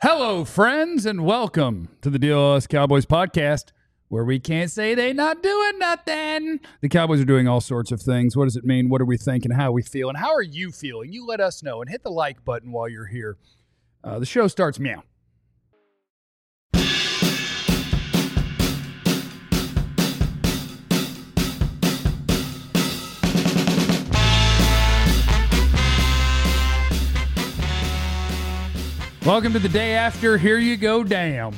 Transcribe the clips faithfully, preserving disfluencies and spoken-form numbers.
Hello, friends, and welcome to the D L S Cowboys podcast, where we can't say they not doing nothing. The Cowboys are doing all sorts of things. What does it mean? What are we thinking? How are we feeling? How are you feeling? You let us know, and hit the like button while you're here. Uh, the show starts meow. Welcome to the day after. Here you go, damn.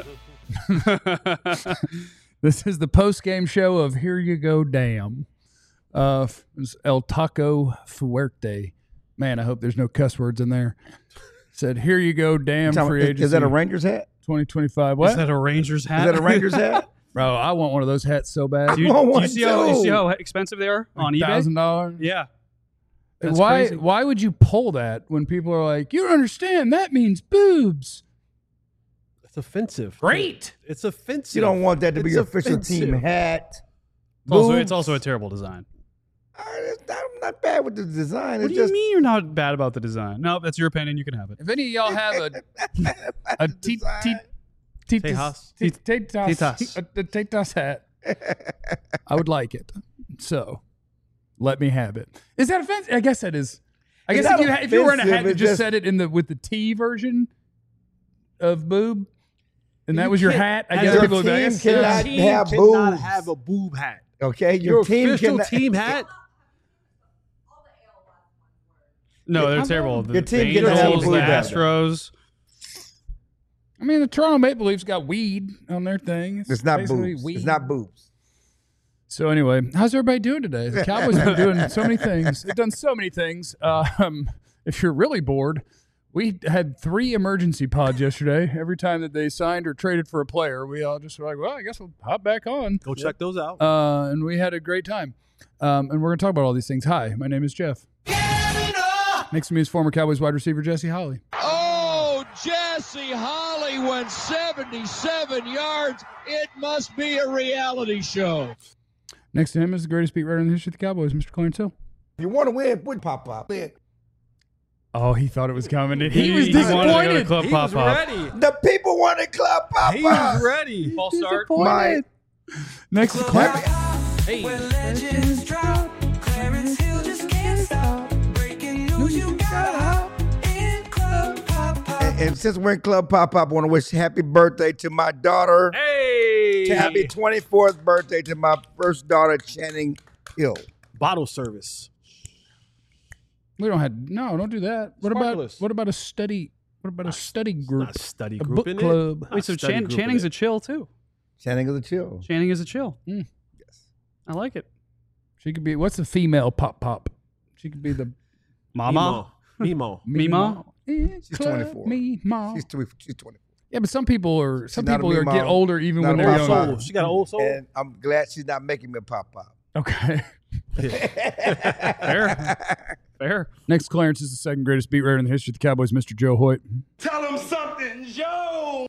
This is the post-game show of Here You Go, Damn. Uh, El Taco Fuerte. Man, I hope there's no cuss words in there. Said, Here you go, damn, free agency. Is that a Rangers hat? twenty twenty-five. What? Is that a Rangers hat? Is that a Rangers hat? Bro, I want one of those hats so bad. Do you, I want do you, see how, you too. see how expensive they are on eBay? one thousand dollars. Yeah. That's Why, crazy. why would you pull that when people are like, you don't understand, that means boobs? It's offensive. Great. It's offensive. You don't want that to be It's your official offensive. team hat. It's also, Boobs. it's also a terrible design. Uh, it's not, I'm not bad with the design. What It's do you just, mean you're not bad about the design? No, that's your opinion. You can have it. If any of y'all have a a t- t- t- Tejas. t- Tetas Tetas. a a Tetas hat, I would like it. So let me have it. Is that offensive? I guess that is. I It's guess if not you, ha- if you were wearing a hat offensive, that it's just just- said it in the with the T version of boob, and that was your hat, I As guess your people would be like, team "Yes, cannot yes." team have cannot boobs. have a boob hat. Okay, your, Your, team official cannot, team hat. No, they're I'm terrible. not- The, Your team the can have Angels, a the boob hat. Astros. I mean, the Toronto Maple Leafs got weed on their thing. It's not basically boobs. weed. It's not boobs. So anyway, how's everybody doing today? The Cowboys have been doing so many things. They've done so many things. Um, if you're really bored, we had three emergency pods yesterday. Every time that they signed or traded for a player, we all just were like, well, I guess we'll hop back on. Go check those out. Uh, and we had a great time. Um, and we're going to talk about all these things. Hi, my name is Jeff. Next to me is former Cowboys wide receiver Jesse Holley. Oh, Jesse Holley went seventy-seven yards. It must be a reality show. Next to him is the greatest beat writer in the history of the Cowboys, Mister Clarence Hill. If you want to win, put pop pop. Win. Oh, he thought it was coming. He, He, was he wanted to go to disappointed. Club he Pop was Pop. ready. The people wanted club pop He pop. was ready. False start. Disappointed. Next to Clarence. Hey. Legends drop. Clarence Hill just can't stop. Breaking news, you got up in Club Pop Pop. And, and since we're in club pop pop, I want to wish happy birthday to my daughter. Hey. Happy twenty-fourth birthday to my first daughter, Channing Hill. Bottle service. We don't have no. Don't do that. What about Sparkless. what about a study? What about a study group? Not study A group book in club. it. Wait, so Not study Chan- group in Channing's it. a chill, too. Channing is a chill. Channing is a chill. Mm. Yes. I like it. She could be. What's the female pop pop? She could be the Mama. Mimo. Mima. She's Club twenty-four. Mima. She's, tw- she's twenty-four. Yeah, but some people are. Some not a people are Mima. get older even Not when a they're pop younger. pop. Soul. She got an old soul. And I'm glad she's not making me a pop pop. Okay. Fair. Fair. Next, Clarence is the second greatest beat writer in the history of the Cowboys, Mister Joe Hoyt. Tell him something, Joe.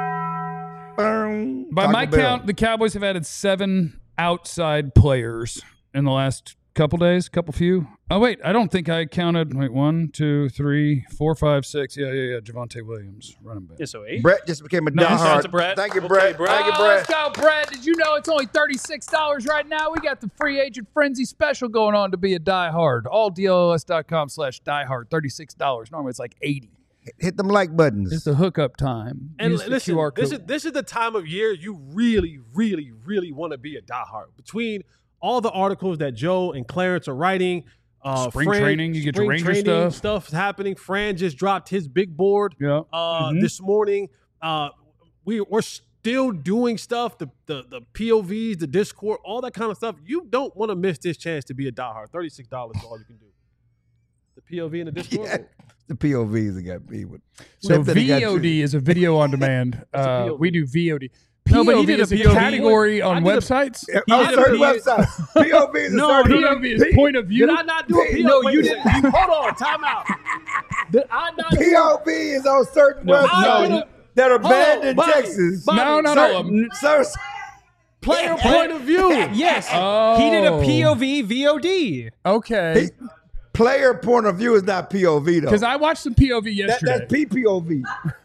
Boom. By Taco my Bell. count, the Cowboys have added seven outside players in the last couple days, couple few. Oh, wait, I don't think I counted. Wait, one, two, three, four, five, six. Yeah, yeah, yeah. Javonte Williams, running back. Yeah, so eight. Brett just became a No, diehard. shout out to Brett. Thank you, Okay, Brett. Brett. Thank you, Oh, let's Brett. go, Brett. Did you know it's only thirty-six dollars right now? We got the free agent frenzy special going on to be a diehard. All D L S dot com slash diehard. thirty-six dollars. Normally it's like eighty dollars. Hit them like buttons. It's the hookup time. And Use the listen, Q R code. this is this is the time of year you really, really, really want to be a diehard. Between all the articles that Joe and Clarence are writing, uh, Spring Fran- training, you get your spring Ranger training stuff. stuff's happening. Fran just dropped his big board Yeah. uh, Mhm. this morning. Uh, we we're still doing stuff. The the the P O Vs, the Discord, all that kind of stuff. You don't want to miss this chance to be a diehard. Thirty six dollars is all you can do. The P O V and the Discord. Yeah. The P O Vs that got me with. So That thing got V O D you. is a video on demand. a uh, P O V. we do V O D. No, but he P O V did a is a P O V. category I on did a- websites. On did a certain P- websites. P O V is a No, certain. P O V is point of view. Did I not do a P O V? No, Wait you a didn't. second. Hold on, time out. Did I not do P O V is on certain No, websites no, that are Hold banned on, in Bobby, Texas. Bobby, No, not all of them. Certain- player point of view? Yes. Oh. He did a P O V V O D. Okay. Player point of view is not P O V though. Because I watched some P O V That, yesterday. that's P P O V.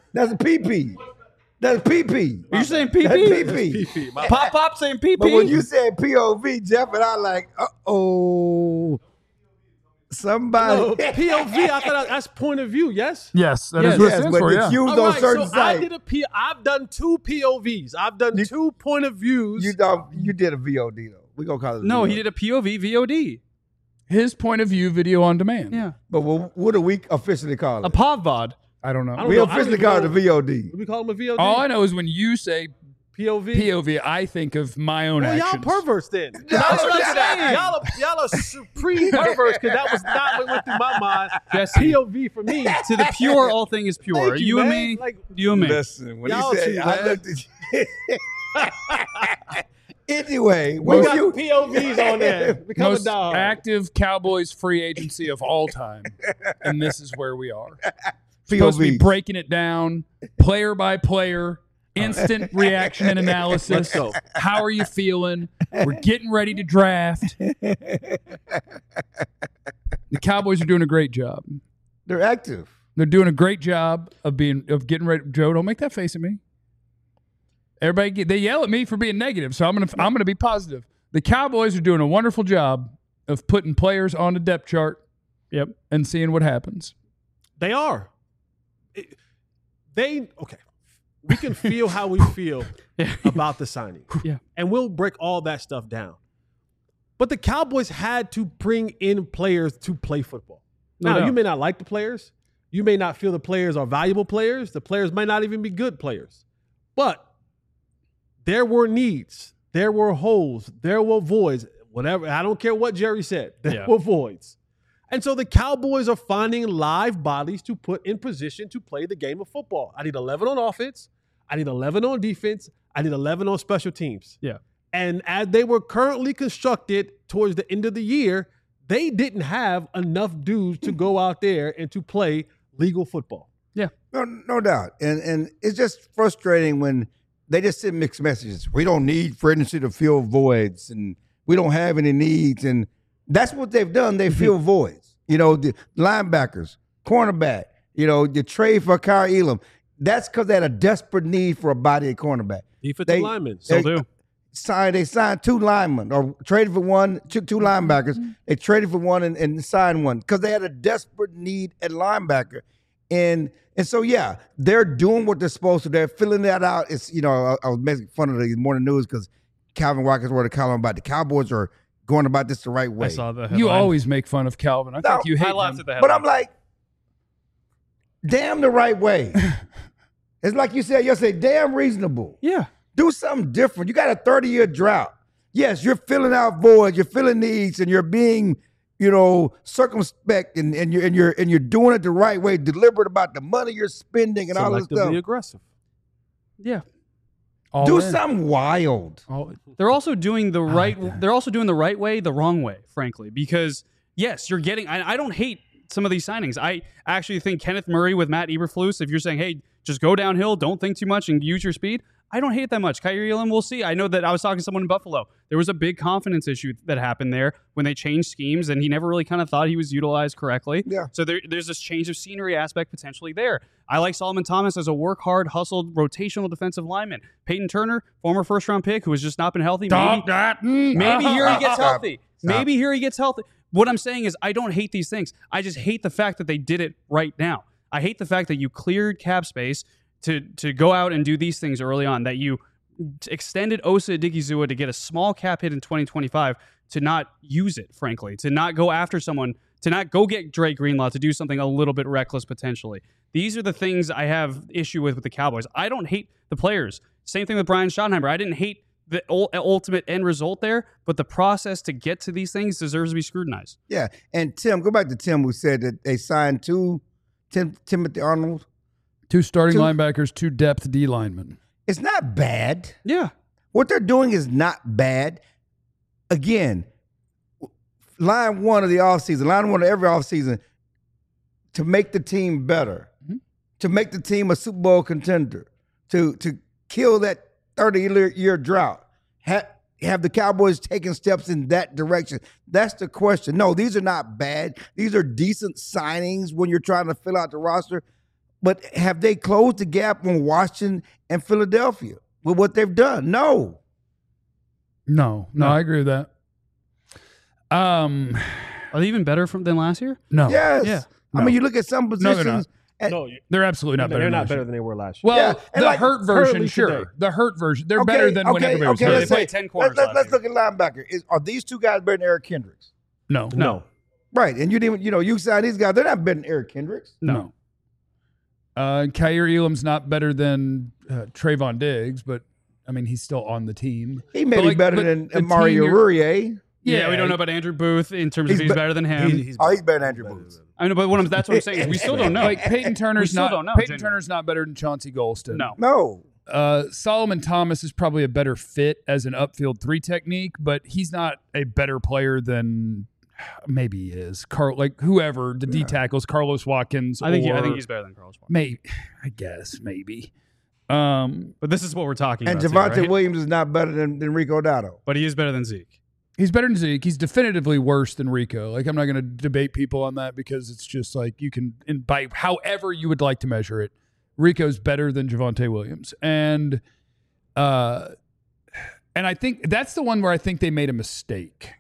That's a P P. That's P P. Are you saying P That's P? P P. P P. My Pop Pop saying P P? But when you said P O V, Jeff and I like, uh oh, somebody. No, P O V. I thought that's point of view. Yes. Yes, that Yes, is what it yes, stands but for, the yeah. cues All on right, certain so I sites. did a P. I've done two P O Vs. I've done You- two point of views. You don't. You did a V O D though. We gonna call it. No, V O D. he did a P O V V O D. His point of view video on demand. Yeah. But what, what do we officially call A it? POVOD. I don't know. I don't We know. I don't officially even call it know. a V O D. Do we call him a V O D? All I know is when you say P O V. P O V, I think of my own Well, y'all actions. perverts then. No, That's what I'm no. saying. Y'all are, y'all are supreme perverts because that was not what went through my mind. Jesse. P O V for me. To the pure, all thing is pure. Thank you, you and man. me, Like, you and me. Listen, when Y'all he said, too, I man. looked at you. Anyway, we when got you P O Vs on there. Become a Most dog. active Cowboys free agency of all time. And this is where we are. P O Supposed to be V. breaking it down player by player, instant reaction and analysis. Let's go. How are you feeling? We're getting ready to draft. The Cowboys are doing a great job. They're active. They're doing a great job of being of getting ready. Joe, don't make that face at me. Everybody, get, they yell at me for being negative, so I'm gonna I'm gonna be positive. The Cowboys are doing a wonderful job of putting players on the depth chart. Yep. And seeing what happens. They are. It- they okay. We can feel how we feel Yeah. about the signing. Yeah. And we'll break all that stuff down. But the Cowboys had to bring in players to play football. No Now, doubt. you may not like the players. You may not feel the players are valuable players. The players might not even be good players. But there were needs. There were holes. There were voids. Whatever. I don't care what Jerry said. There Yeah. were voids. And so the Cowboys are finding live bodies to put in position to play the game of football. I need eleven on offense. I need eleven on defense. I need eleven on special teams. Yeah. And as they were currently constructed towards the end of the year, they didn't have enough dudes to go out there and to play legal football. No, no doubt. And and it's just frustrating when they just send mixed messages. We don't need free agency to fill voids, and we don't have any needs. And that's what they've done. They fill voids. You know, the linebackers, cornerback, you know, the trade for Kyrie Elam. That's because they had a desperate need for a body at cornerback. Defensive They- linemen. Still They- do. Signed, they signed two linemen or traded for one, two, two linebackers. They traded for one and, and signed one because they had a desperate need at linebacker. And and so, yeah, they're doing what they're supposed to. They're filling that out. It's, you know, I, I was making fun of the morning news because Calvin Watkins wrote a column about the Cowboys are going about this the right way. I saw the You headline. always make fun of Calvin. I No, think you hate I laughed him. at the But headline. I'm like, damn the right way. It's like you said yesterday, damn reasonable. Yeah. Do something different. You got a thirty-year drought. Yes, you're filling out voids, you're filling needs, and you're being, you know, circumspect, and, and you're and you're and you're doing it the right way, deliberate about the money you're spending and all this Selectively stuff. aggressive. Yeah. All Do in. something wild. All- They're also doing the right. that. They're also doing the right way, the wrong way, frankly. Because yes, you're getting. I, I don't hate some of these signings. I actually think Kenneth Murray with Matt Eberflus. If you're saying, hey, just go downhill, don't think too much, and use your speed, I don't hate it that much. Kyrie Elam, we'll see. I know that I was talking to someone in Buffalo. There was a big confidence issue that happened there when they changed schemes, and he never really kind of thought he was utilized correctly. Yeah. So there, there's this change of scenery aspect potentially there. I like Solomon Thomas as a work hard, hustled, rotational defensive lineman. Peyton Turner, former first round pick who has just not been healthy. Stop Maybe, that. Mm. maybe here he gets Stop. healthy. Stop. Maybe here he gets healthy. What I'm saying is I don't hate these things. I just hate the fact that they did it right now. I hate the fact that you cleared cap space to to go out and do these things early on, that you extended Osa Odigizua to get a small cap hit in twenty twenty-five, to not use it, frankly, to not go after someone, to not go get Dre Greenlaw, to do something a little bit reckless potentially. These are the things I have issue with with the Cowboys. I don't hate the players. Same thing with Brian Schottenheimer. I didn't hate the ul- ultimate end result there, but the process to get to these things deserves to be scrutinized. Yeah. And Tim, go back to Tim who said that they signed two Tim, Timothy Arnold. Two starting Two- linebackers, two depth D linemen. It's not bad. Yeah. What they're doing is not bad. Again, line one of the offseason, line one of every offseason, to make the team better, Mm-hmm. to make the team a Super Bowl contender, to to kill that thirty-year drought. Ha- have the Cowboys taken steps in that direction? That's the question. No, these are not bad. These are decent signings when you're trying to fill out the roster. But have they closed the gap on Washington and Philadelphia with what they've done? No. No, no, No. I agree with that. Um, Are they even better from, than last year? no, Yes. Yeah. I No. mean, you look at some No, they're positions. and- No, you- they're absolutely not they're better. not than better last than they were last year. year. Well, Yeah, and the like hurt version, currently sure. today. The hurt version, they're Okay, better than when okay, everybody was okay, healthy. let's They say- played ten corners Let's, let's, last let's look at linebacker. Is, are these two guys better than Eric Kendricks? No, No. Right. And you didn't, you know, you signed these guys. They're not better than Eric Kendricks. no. Uh, Kyer Elam's not better than uh, Trayvon Diggs, but I mean, he's still on the team. He may But, be like, better but than the Mario team you're- Rurier. Yeah, we don't know about Andrew Booth in terms of He's if he's be- better than him. He- he's Oh, he's better than Andrew Booth. I mean, but what I'm, that's what I'm saying is we still don't know. Like Peyton Turner's still not. don't know, Peyton genuinely. Turner's not better than Chauncey Golston. No. No. Uh, Solomon Thomas is probably a better fit as an upfield three technique, but he's not a better player than maybe he is. Carl, like whoever the D tackles, Carlos Watkins. I think he, I or think he's better than Carlos Watkins. Maybe, I guess maybe. Um, But this is what we're talking And about. Javonte too, right? Williams is not better than, than Rico Dotto. But he is better than Zeke. he's better than Zeke. He's definitively worse than Rico. Like I'm not going to debate people on that because it's just like you can, and by however you would like to measure it, Rico's better than Javonte Williams, and uh, and I think that's the one where I think they made a mistake.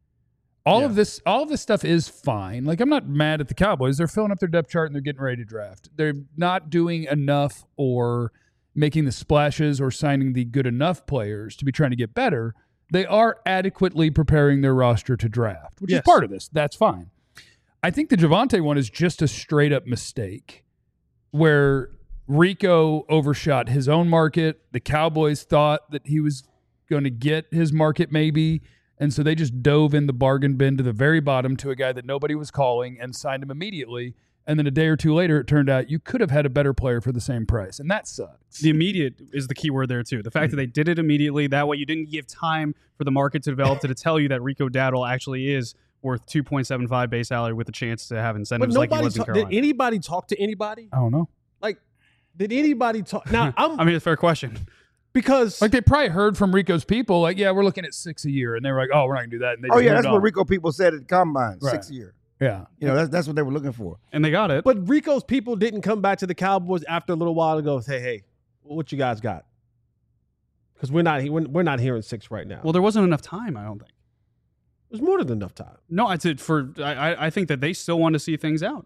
All of Yeah. this, all of this stuff is fine. Like I'm not mad at the Cowboys. They're filling up their depth chart and they're getting ready to draft. They're not doing enough or making the splashes or signing the good enough players to be trying to get better. They are adequately preparing their roster to draft, which Yes. is part of this. That's fine. I think the Javonte one is just a straight up mistake where Rico overshot his own market. The Cowboys thought that he was going to get his market maybe. And so they just dove in the bargain bin to the very bottom to a guy that nobody was calling and signed him immediately. And then a day or two later, it turned out you could have had a better player for the same price. And that sucks. The immediate is the key word there, too. The fact that they did it immediately, that way you didn't give time for the market to develop to, to tell you that Rico Dowdle actually is worth two point seven five base salary with a chance to have But incentives like he nobody was in talk, did Carolina. anybody talk to anybody? I don't know. Like, did anybody talk? Now, I'm I mean, it's a fair question. because Like they probably heard from Rico's people, like, yeah, we're looking at six a year. And they were like, oh, we're not going to do that. And they Oh, just yeah, moved that's what on. Rico people said at the Combine, Right. six year. Yeah. You know, that's, that's what they were looking for. And they got it. but Rico's people didn't come back to the Cowboys after a little while to go say, "Hey, what you guys got?" Because we're not we're, we're not hearing six right now. well, there wasn't enough time, I don't think. there's more than enough time. No, I said for I, I- I think that they still want to see things out.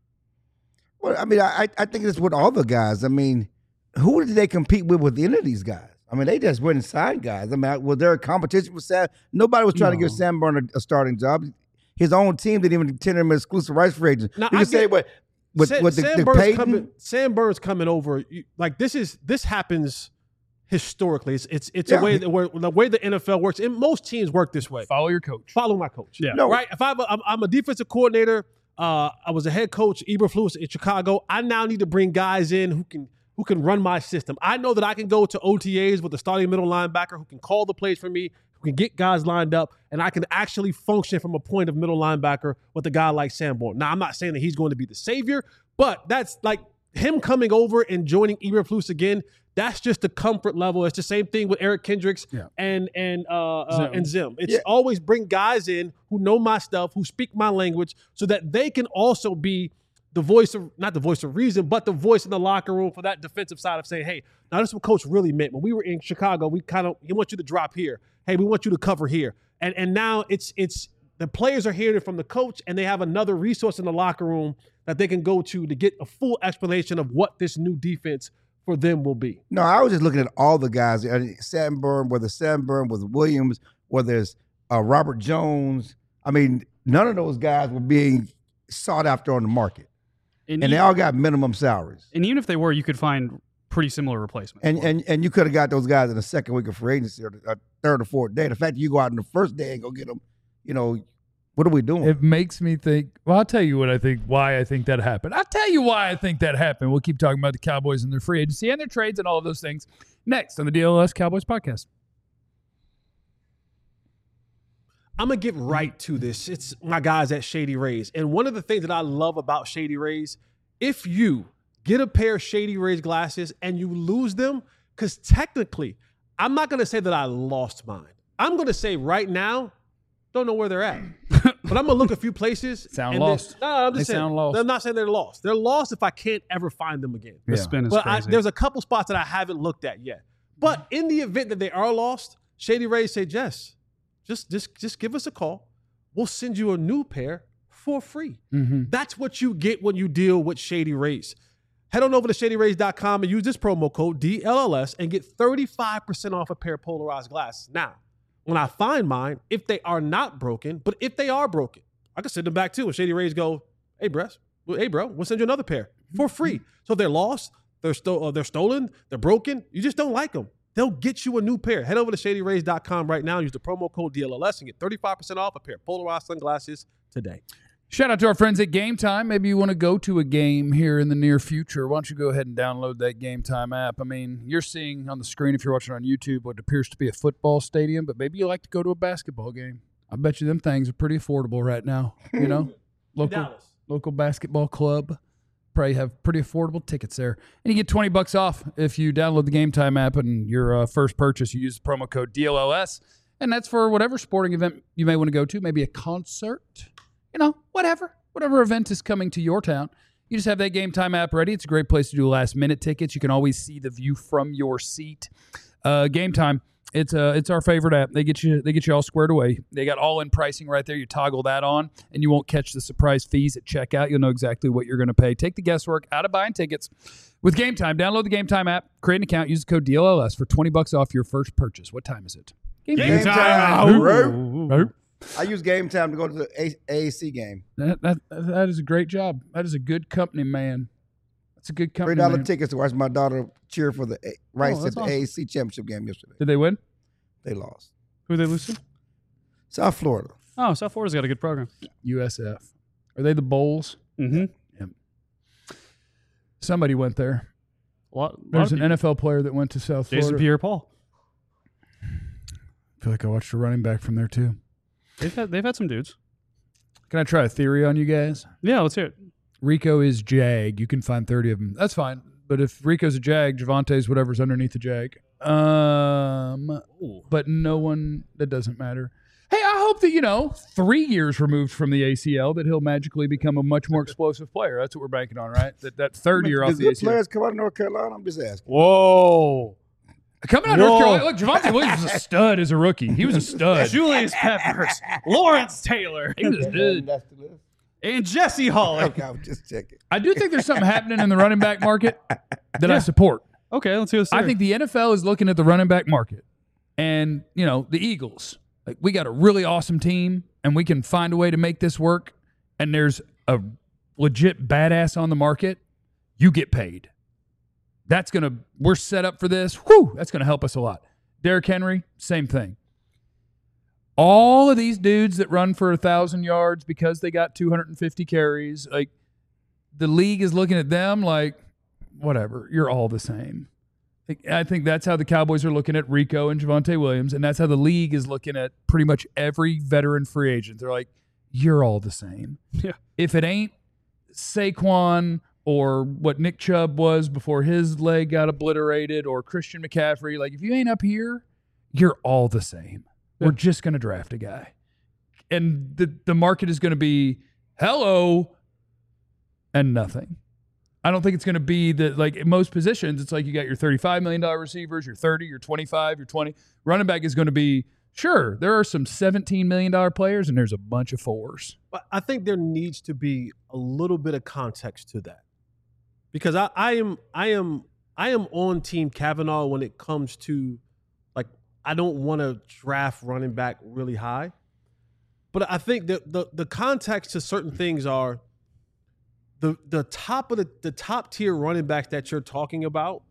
Well, I mean, I, I think it's with all the guys. I mean, who did they compete with with any of these guys? I mean, they just went and signed guys. I mean, was there a competition with Sam? Nobody was trying to give No. Sam Byrne a, a starting job. His own team didn't even tender him as exclusive rights free agent. Now, you I can say get- what with, Sam, with the, Sam the Burns Peyton. coming. Sam Burns coming over. you- Like this is this happens historically. It's it's it's Yeah. a way that where the way the N F L works, and most teams work this way. Follow your coach. Follow my coach. Yeah. No. Right. If I'm a, I'm, I'm a defensive coordinator, uh, I was a head coach, Eberflus in Chicago. I now need to bring guys in who can who can run my system. I know that I can go to O T As with a starting middle linebacker who can call the plays for me, who can get guys lined up, and I can actually function from a point of middle linebacker with a guy like Sam Bourne. Now, I'm not saying that he's going to be the savior, but that's like him coming over and joining Eberflus again. That's just the comfort level. It's the same thing with Eric Kendricks Yeah. and and uh, uh Zim. and Zim. It's Yeah. always bring guys in who know my stuff, who speak my language, so that they can also be the voice of not the voice of reason, but the voice in the locker room for that defensive side of saying, hey, now this is what coach really meant. When we were in Chicago, we kind of he wants you to drop here. Hey, we want you to cover here. And and now it's it's the players are hearing it from the coach, and they have another resource in the locker room that they can go to to get a full explanation of what this new defense for them will be. No, I was just looking at all the guys. I mean, Sam Byrne, whether Sam Byrne, whether Williams, whether it's uh, Robert Jones. I mean, none of those guys were being sought after on the market, And, and they e- all got minimum salaries. and even if they were, you could find pretty similar replacements. And for them. and and you could have got those guys in the second week of free agency or the uh, third or fourth day. The fact that you go out on the first day and go get them, you know, what are we doing? It makes me think. Well, I'll tell you what I think. Why I think that happened. I'll tell you why I think that happened. We'll keep talking about the Cowboys and their free agency and their trades and all of those things next on the D L S Cowboys podcast. I'm gonna get right to this. It's my guys at Shady Rays. And one of the things that I love about Shady Rays, if you get a pair of Shady Rays glasses and you lose them, because technically, I'm not gonna say that I lost mine. I'm gonna say right now, don't know where they're at. But I'm gonna look a few places. Sound and then- lost. no, I'm just They saying. sound lost. I'm not saying they're lost. They're lost if I can't ever find them again. The Yeah. spin is But I, crazy. there's a couple spots that I haven't looked at yet. But in the event that they are lost, Shady Rays say, Jess, just just just give us a call. We'll send you a new pair for free. Mm-hmm. That's what you get when you deal with Shady Rays. Head on over to shady rays dot com and use this promo code D L L S and get thirty-five percent off a pair of polarized glasses. Now, when I find mine, if they are not broken, but if they are broken, I can send them back too. And Shady Rays go, hey, Bress, hey, bro, we'll send you another pair for free. So if they're lost, they're, sto- uh, they're stolen, they're broken, you just don't like them. They'll get you a new pair. Head over to shady rays dot com right now. Use the promo code D L L S and get thirty-five percent off a pair of polarized sunglasses today. Shout out to our friends at Game Time. Maybe you want to go to a game here in the near future. Why don't you go ahead and download that Game Time app? I mean, you're seeing on the screen, if you're watching on YouTube, what appears to be a football stadium, but maybe you like to go to a basketball game. I bet you them things are pretty affordable right now. You know, local Dallas. local basketball club probably have pretty affordable tickets there, and you get twenty bucks off if you download the Game Time app and your uh, first purchase you use the promo code D L L S, and that's for whatever sporting event you may want to go to, maybe a concert. You know, whatever, whatever event is coming to your town. You just have that Game Time app ready. It's a great place to do last minute tickets. You can always see the view from your seat. Uh, Game Time, it's uh, it's our favorite app. They get you they get you all squared away. They got all in pricing right there. You toggle that on, and you won't catch the surprise fees at checkout. You'll know exactly what you're going to pay. Take the guesswork out of buying tickets with Game Time. Download the Game Time app, create an account, use the code D L L S for twenty bucks off your first purchase. What time is it? Game, Game time. Ooh. Right? I use Game Time to go to the A- AAC game. That, that that is a great job. That is a good company, man. That's a good Three company. dollar man. tickets to watch my daughter cheer for the A- Rice that's at the awesome. A A C championship game yesterday. Did they win? They lost. Who they lose to? South Florida. Oh, South Florida's got a good program. U S F. Are they the Bowls? Mm-hmm. Somebody went there. A lot, There's lot an N F L player that went to South Jason Florida. Pierre-Paul. I feel like I watched a running back from there too. They've had they've had some dudes. Can I try a theory on you guys? Yeah, let's hear it. Rico is Jag. You can find thirty of them. That's fine. But if Rico's a Jag, Javante's whatever's underneath the Jag. Um, but no one, that doesn't matter. Hey, I hope that, you know, three years removed from the A C L, that he'll magically become a much more explosive player. That's what we're banking on, right? That that third year off Does the good A C L. players come out of North Carolina? I'm just asking. Whoa. Coming out of North Carolina, look, Javonte Williams was a stud as a rookie. He was a stud. Julius Peppers, Lawrence Taylor, He was a stud. That's the list. and Jesse Holly. Okay, I was just checking. I do think there's something happening in the running back market that I support. Okay, let's hear this. I think the N F L is looking at the running back market, and you know the Eagles. Like, we got a really awesome team, and we can find a way to make this work. And there's a legit badass on the market. You get paid. That's gonna. We're set up for this. Whew, that's gonna help us a lot. Derrick Henry, same thing. All of these dudes that run for a thousand yards because they got two hundred fifty carries, like the league is looking at them like, whatever, you're all the same. I think that's how the Cowboys are looking at Rico and Javonte Williams, and that's how the league is looking at pretty much every veteran free agent. They're like, you're all the same. Yeah. If it ain't Saquon or what Nick Chubb was before his leg got obliterated or Christian McCaffrey, like if you ain't up here, you're all the same. We're just going to draft a guy. And the, the market is going to be hello and nothing. I don't think it's going to be that, like in most positions, it's like you got your thirty-five million dollars receivers, your thirty, your twenty-five, your twenty. Running back is going to be, sure, there are some seventeen million dollars players and there's a bunch of fours. But I think there needs to be a little bit of context to that, because I, I am I am I am on Team Kavanaugh when it comes to, like, I don't want to draft running back really high, but I think that the the context to certain things are the the top of the the top tier running backs that you're talking about.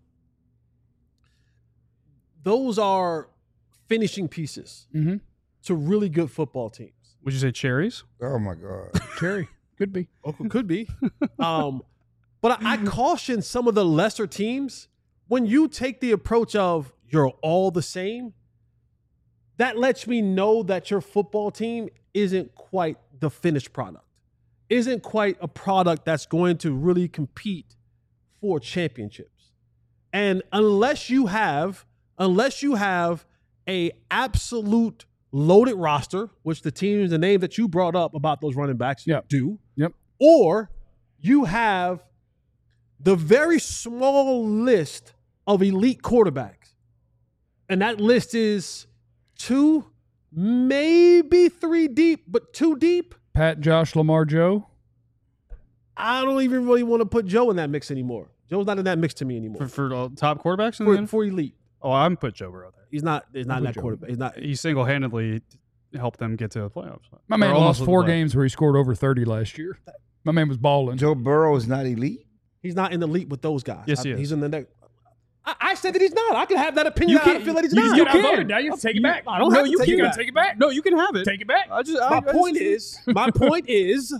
Those are finishing pieces Mm-hmm. to really good football teams. Would you say cherries? Oh my God. Cherry. Could be. Oh, could be. um, but I, I caution some of the lesser teams, when you take the approach of you're all the same, that lets me know that your football team isn't quite the finished product, isn't quite a product that's going to really compete for championships. And unless you have, unless you have a absolute loaded roster, which the teams, the name that you brought up about those running backs Yep. do, Yep. or you have the very small list of elite quarterbacks. And that list is two, maybe three deep, but two deep. Pat, Josh, Lamar, Joe. I don't even really want to put Joe in that mix anymore. Joe's not in that mix to me anymore. For, for uh, top quarterbacks in For, the N F L? for elite. Oh, I'm put Joe Burrow there. He's not he's not in put that Joe. quarterback. He's not He single-handedly helped them get to the playoffs. My man Or lost almost four the playoffs. games where he scored over thirty last year. My man was balling. Joe Burrow is not elite. he's not in the elite with those guys. Yes, I- he is. He's in the next. I, I said that he's not. I can have that opinion. You I can't- feel that he's you- not. you got can. outvoted. Now you have to take it back. I don't No, have to you take can't. it back. Take it back. No, you can have it. Take it back. I just, I, My I just- point is, my point is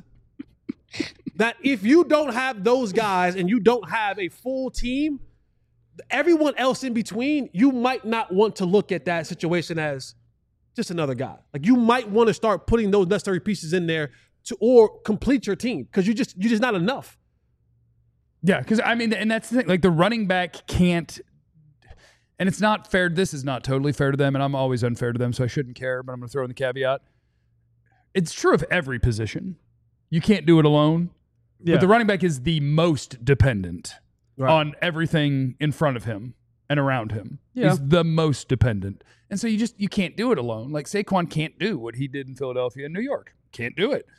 that if you don't have those guys and you don't have a full team, everyone else in between, you might not want to look at that situation as just another guy. Like you might want to start putting those necessary pieces in there to or complete your team because you just you're just not enough. Yeah, because I mean, and that's the thing. Like the running back can't, and it's not fair. This is not totally fair to them, and I'm always unfair to them, so I shouldn't care. But I'm going to throw in the caveat. It's true of every position. You can't do it alone. Yeah. But the running back is the most dependent Right. on everything in front of him and around him. Yeah. He's the most dependent. And so you just you can't do it alone. Like Saquon can't do what he did in Philadelphia and New York. Can't do it.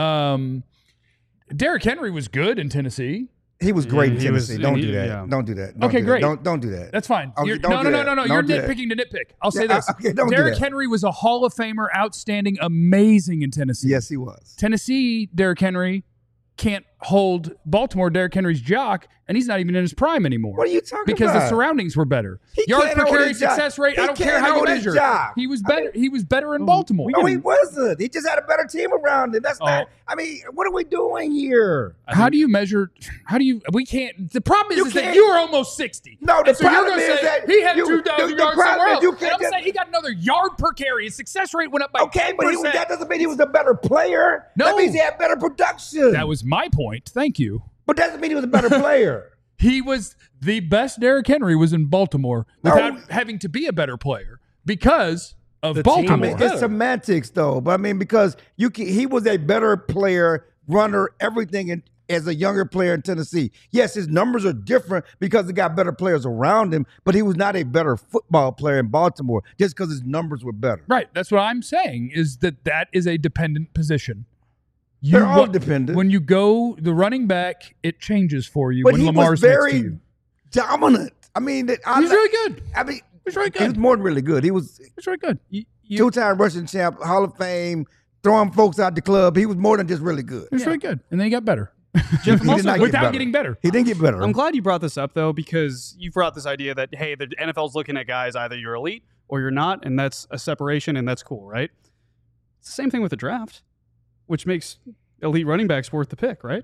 Um, Derrick Henry was good in Tennessee. He was great Yeah, in he was- Tennessee. don't and do he- that. yeah. Don't do that. Don't Okay, do that. great. Don't don't do that. That's fine. Okay, You're- don't no, do no, no, that. no, no. Don't You're do that. nitpicking to nitpick. I'll say Yeah, this. okay, don't do Derrick that. Henry was a Hall of Famer, outstanding, amazing in Tennessee. Yes, he was. Tennessee, Derrick Henry can't hold Baltimore, Derrick Henry's jock, and he's not even in his prime anymore. What are you talking because about? the surroundings were better. He Yards can't per hold carry, his jock. success rate. He I don't care can't how you hold his measure. jock. He was I better. mean- he was better in Baltimore. No, he wasn't. He just had a better team around him. That's Oh. not. I mean, what are we doing here? How do you measure? How do you? We can't. The problem is, You is that can't- you were almost sixty. No, the And so you're problem gonna is say that he had you- two thousand the- the yards problem somewhere is else. you And can't I'm just- saying he got another yard per carry. His success rate went up by Okay, but he, ten percent. that doesn't mean he was a better player. No. That means he had better production. That was my point. Thank you. but that doesn't mean he was a better player. He was the best. Derrick Henry was in Baltimore No. without having to be a better player because of The team- I Baltimore. mean, it's semantics, though. But I mean, because you can, he was a better player, runner, everything, in, as a younger player in Tennessee. Yes, his numbers are different because he got better players around him, but he was not a better football player in Baltimore just because his numbers were better. Right. That's what I'm saying is that that is a dependent position. You They're all wa- dependent. When you go the running back, it changes for you But when he Lamar's was next to very you. dominant. I mean, that- I, He's really good. I mean, He's really he was good. more than really good. He was He's really good. You, you, two-time rushing champ, Hall of Fame, throwing folks out the club. He was more than just really good. He's really good. And then he got better. Jeff, I'm He also- did not get without better. getting better. He didn't get better. I'm glad you brought this up though, because you brought this idea that hey, the N F L's looking at guys either you're elite or you're not, and that's a separation, and that's cool, right? It's the same thing with the draft, which makes elite running backs worth the pick, right?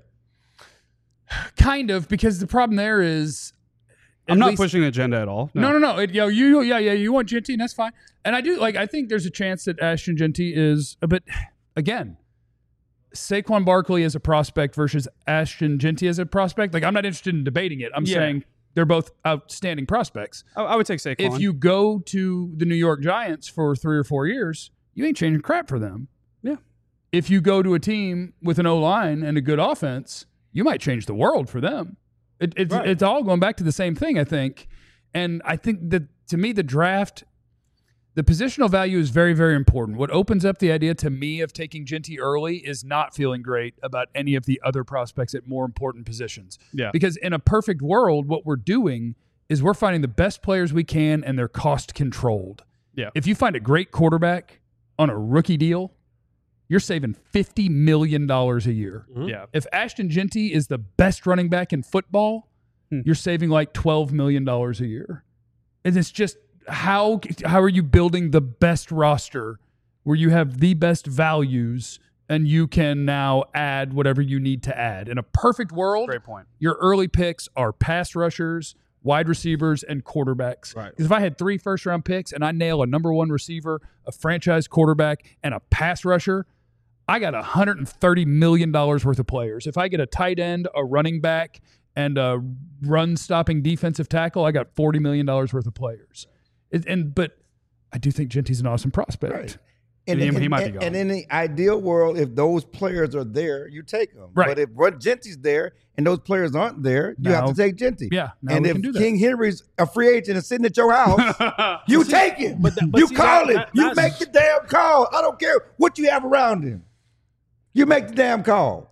Kind of, because the problem there is I'm at not least- pushing an agenda at all. No, no, no. It, yo, you, yeah, yeah. You want Genty, and that's fine. And I do like. I think there's a chance that Ashton Genty is, but again, Saquon Barkley as a prospect versus Ashton Genty as a prospect. Like, I'm not interested in debating it. I'm Yeah. saying they're both outstanding prospects. I, I would take Saquon. If you go to the New York Giants for three or four years, you ain't changing crap for them. Yeah. If you go to a team with an O line and a good offense, you might change the world for them. It, it's Right. it's all going back to the same thing, I think. And I think that to me, the draft, the positional value is very, very important. What opens up the idea to me of taking Genty early is not feeling great about any of the other prospects at more important positions. Yeah. Because in a perfect world, what we're doing is we're finding the best players we can and they're cost controlled. Yeah. If you find a great quarterback on a rookie deal, you're saving fifty million dollars a year. yeah. If Ashton Genty is the best running back in football, Hmm. you're saving like twelve million dollars a year. And it's just how how are you building the best roster where you have the best values and you can now add whatever you need to add? In a perfect world, Great point. your early picks are pass rushers, wide receivers, and quarterbacks. Right. Because if I had three first round picks and I nail a number one receiver, a franchise quarterback, and a pass rusher, I got one hundred thirty million dollars worth of players. If I get a tight end, a running back, and a run-stopping defensive tackle, I got forty million dollars worth of players. It, and But I do think Genty's an awesome prospect. Right. And, He- and- he might be and- gone. and in the ideal world, if those players are there, you take them. Right. But if Rod Genty's there and those players aren't there, you have Now- to take Genty. Yeah, now and we if can do that. King Henry's a free agent and sitting at your house, you take him. but that- but you see, call that- him. that- you that's- make the damn call. I don't care what you have around him. You make the damn call.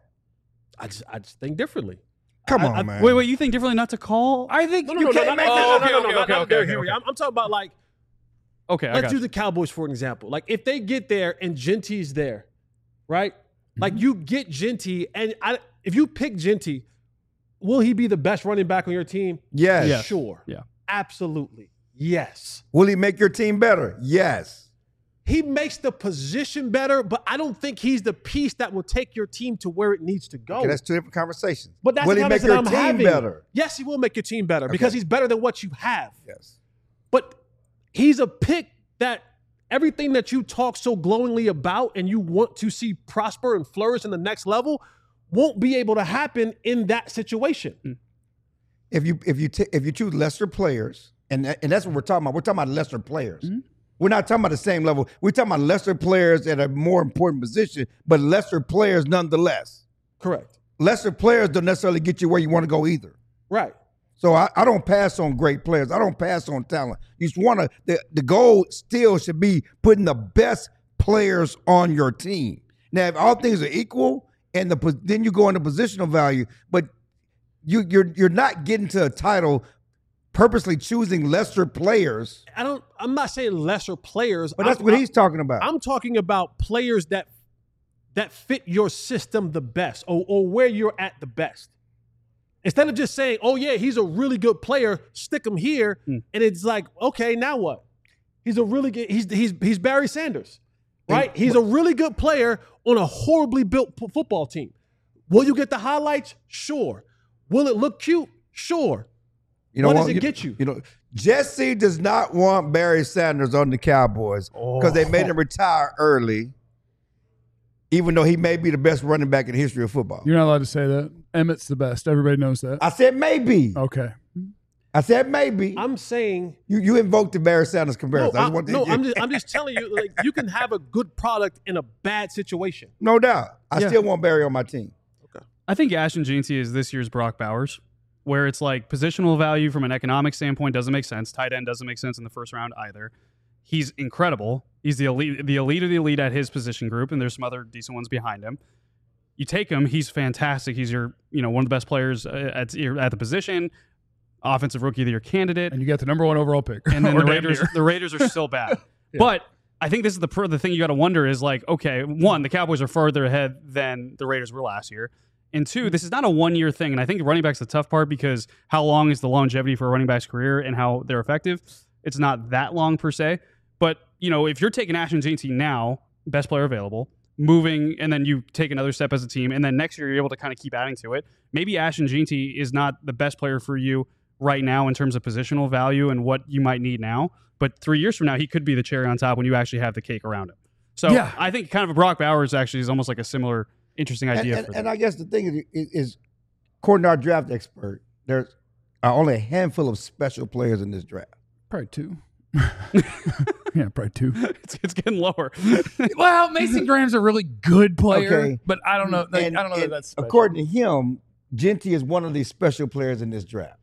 I just I just think differently. Come I- on, I- man. Wait, wait, you think differently not to call? I think No, no, You no, no, can't no, make no, that- no, okay, no, no, okay, no, okay, not okay, Derrick okay, Henry. okay. I'm, I'm talking about like Okay, I let's got use you. the Cowboys for an example. Like if they get there and Genty's there, right? Mm-hmm. Like you get Genty, and I, if you pick Genty, will he be the best running back on your team? Yes. Yes. Sure. Yeah. Absolutely. Yes. Will he make your team better? Yes. He makes the position better, but I don't think he's the piece that will take your team to where it needs to go. Okay, that's two different conversations. but that's will the he make conversation your I'm team having. better? Yes, he will make your team better because Okay. he's better than what you have. Yes. But he's a pick that everything that you talk so glowingly about and you want to see prosper and flourish in the next level won't be able to happen in that situation. If you if you t- if you choose lesser players, and that, and that's what we're talking about. We're talking about lesser players. Mm-hmm. We're not talking about the same level. We're talking about lesser players at a more important position, but lesser players nonetheless. Correct. Lesser players don't necessarily get you where you want to go either. Right. So I, I don't pass on great players. I don't pass on talent. You just want to. The, the goal still should be putting the best players on your team. Now, if all things are equal, and the pos- then you go into positional value, but you you're you're not getting to a title purposely choosing lesser players. I don't I'm not saying lesser players. But that's I'm, what I'm- he's talking about. I'm talking about players that that fit your system the best or, or where you're at the best. Instead of just saying, oh, yeah, he's a really good player, stick him here. Hmm. And it's like, okay, now what? He's a really good, he's he's he's Barry Sanders, right? And- he's a really good player on a horribly built p- football team. Will you get the highlights? Sure. Will it look cute? Sure. You know What does it get you? You know, Jesse does not want Barry Sanders on the Cowboys because they made him retire early, even though he may be the best running back in the history of football. You're not allowed to say that. Emmett's the best. Everybody knows that. I said maybe. Okay. I said maybe. I'm saying you you invoked the Barry Sanders no, comparison. I I, just want to- no I'm just I'm just telling you, like you can have a good product in a bad situation. no doubt. I Yeah. still want Barry on my team. I think Ashton Jeanty is this year's Brock Bowers, where it's like positional value from an economic standpoint doesn't make sense. Tight end doesn't make sense in the first round either. He's incredible. He's the elite, the elite of the elite at his position group, and there's some other decent ones behind him. You take him, he's fantastic. He's your, you know, one of the best players uh, at at the position, offensive rookie of the year candidate. And you got the number one overall pick. And then Or the damn Raiders, near. the Raiders are still bad. But I think this is the pr- the thing you got to wonder is like, okay, one, the Cowboys are further ahead than the Raiders were last year. And two, this is not a one-year thing. And I think running back's the tough part because how long is the longevity for a running back's career and how they're effective? It's not that long per se. But, you know, if you're taking Ashton Jeanty now, best player available, moving, and then you take another step as a team, and then next year you're able to kind of keep adding to it, maybe Ashton Jeanty is not the best player for you right now in terms of positional value and what you might need now. But three years from now, he could be the cherry on top when you actually have the cake around him. So Yeah. I think kind of a Brock Bowers actually is almost like a similar interesting And, idea. and, for and them. I guess the thing is, is, is, according to our draft expert, there's are only a handful of special players in this draft. Probably two. yeah, probably two. it's, it's getting lower. Well, Mason Graham's a really good player, Okay. but I don't know. Like, And- I don't know that and that's special. according to him, Genty is one of these special players in this draft,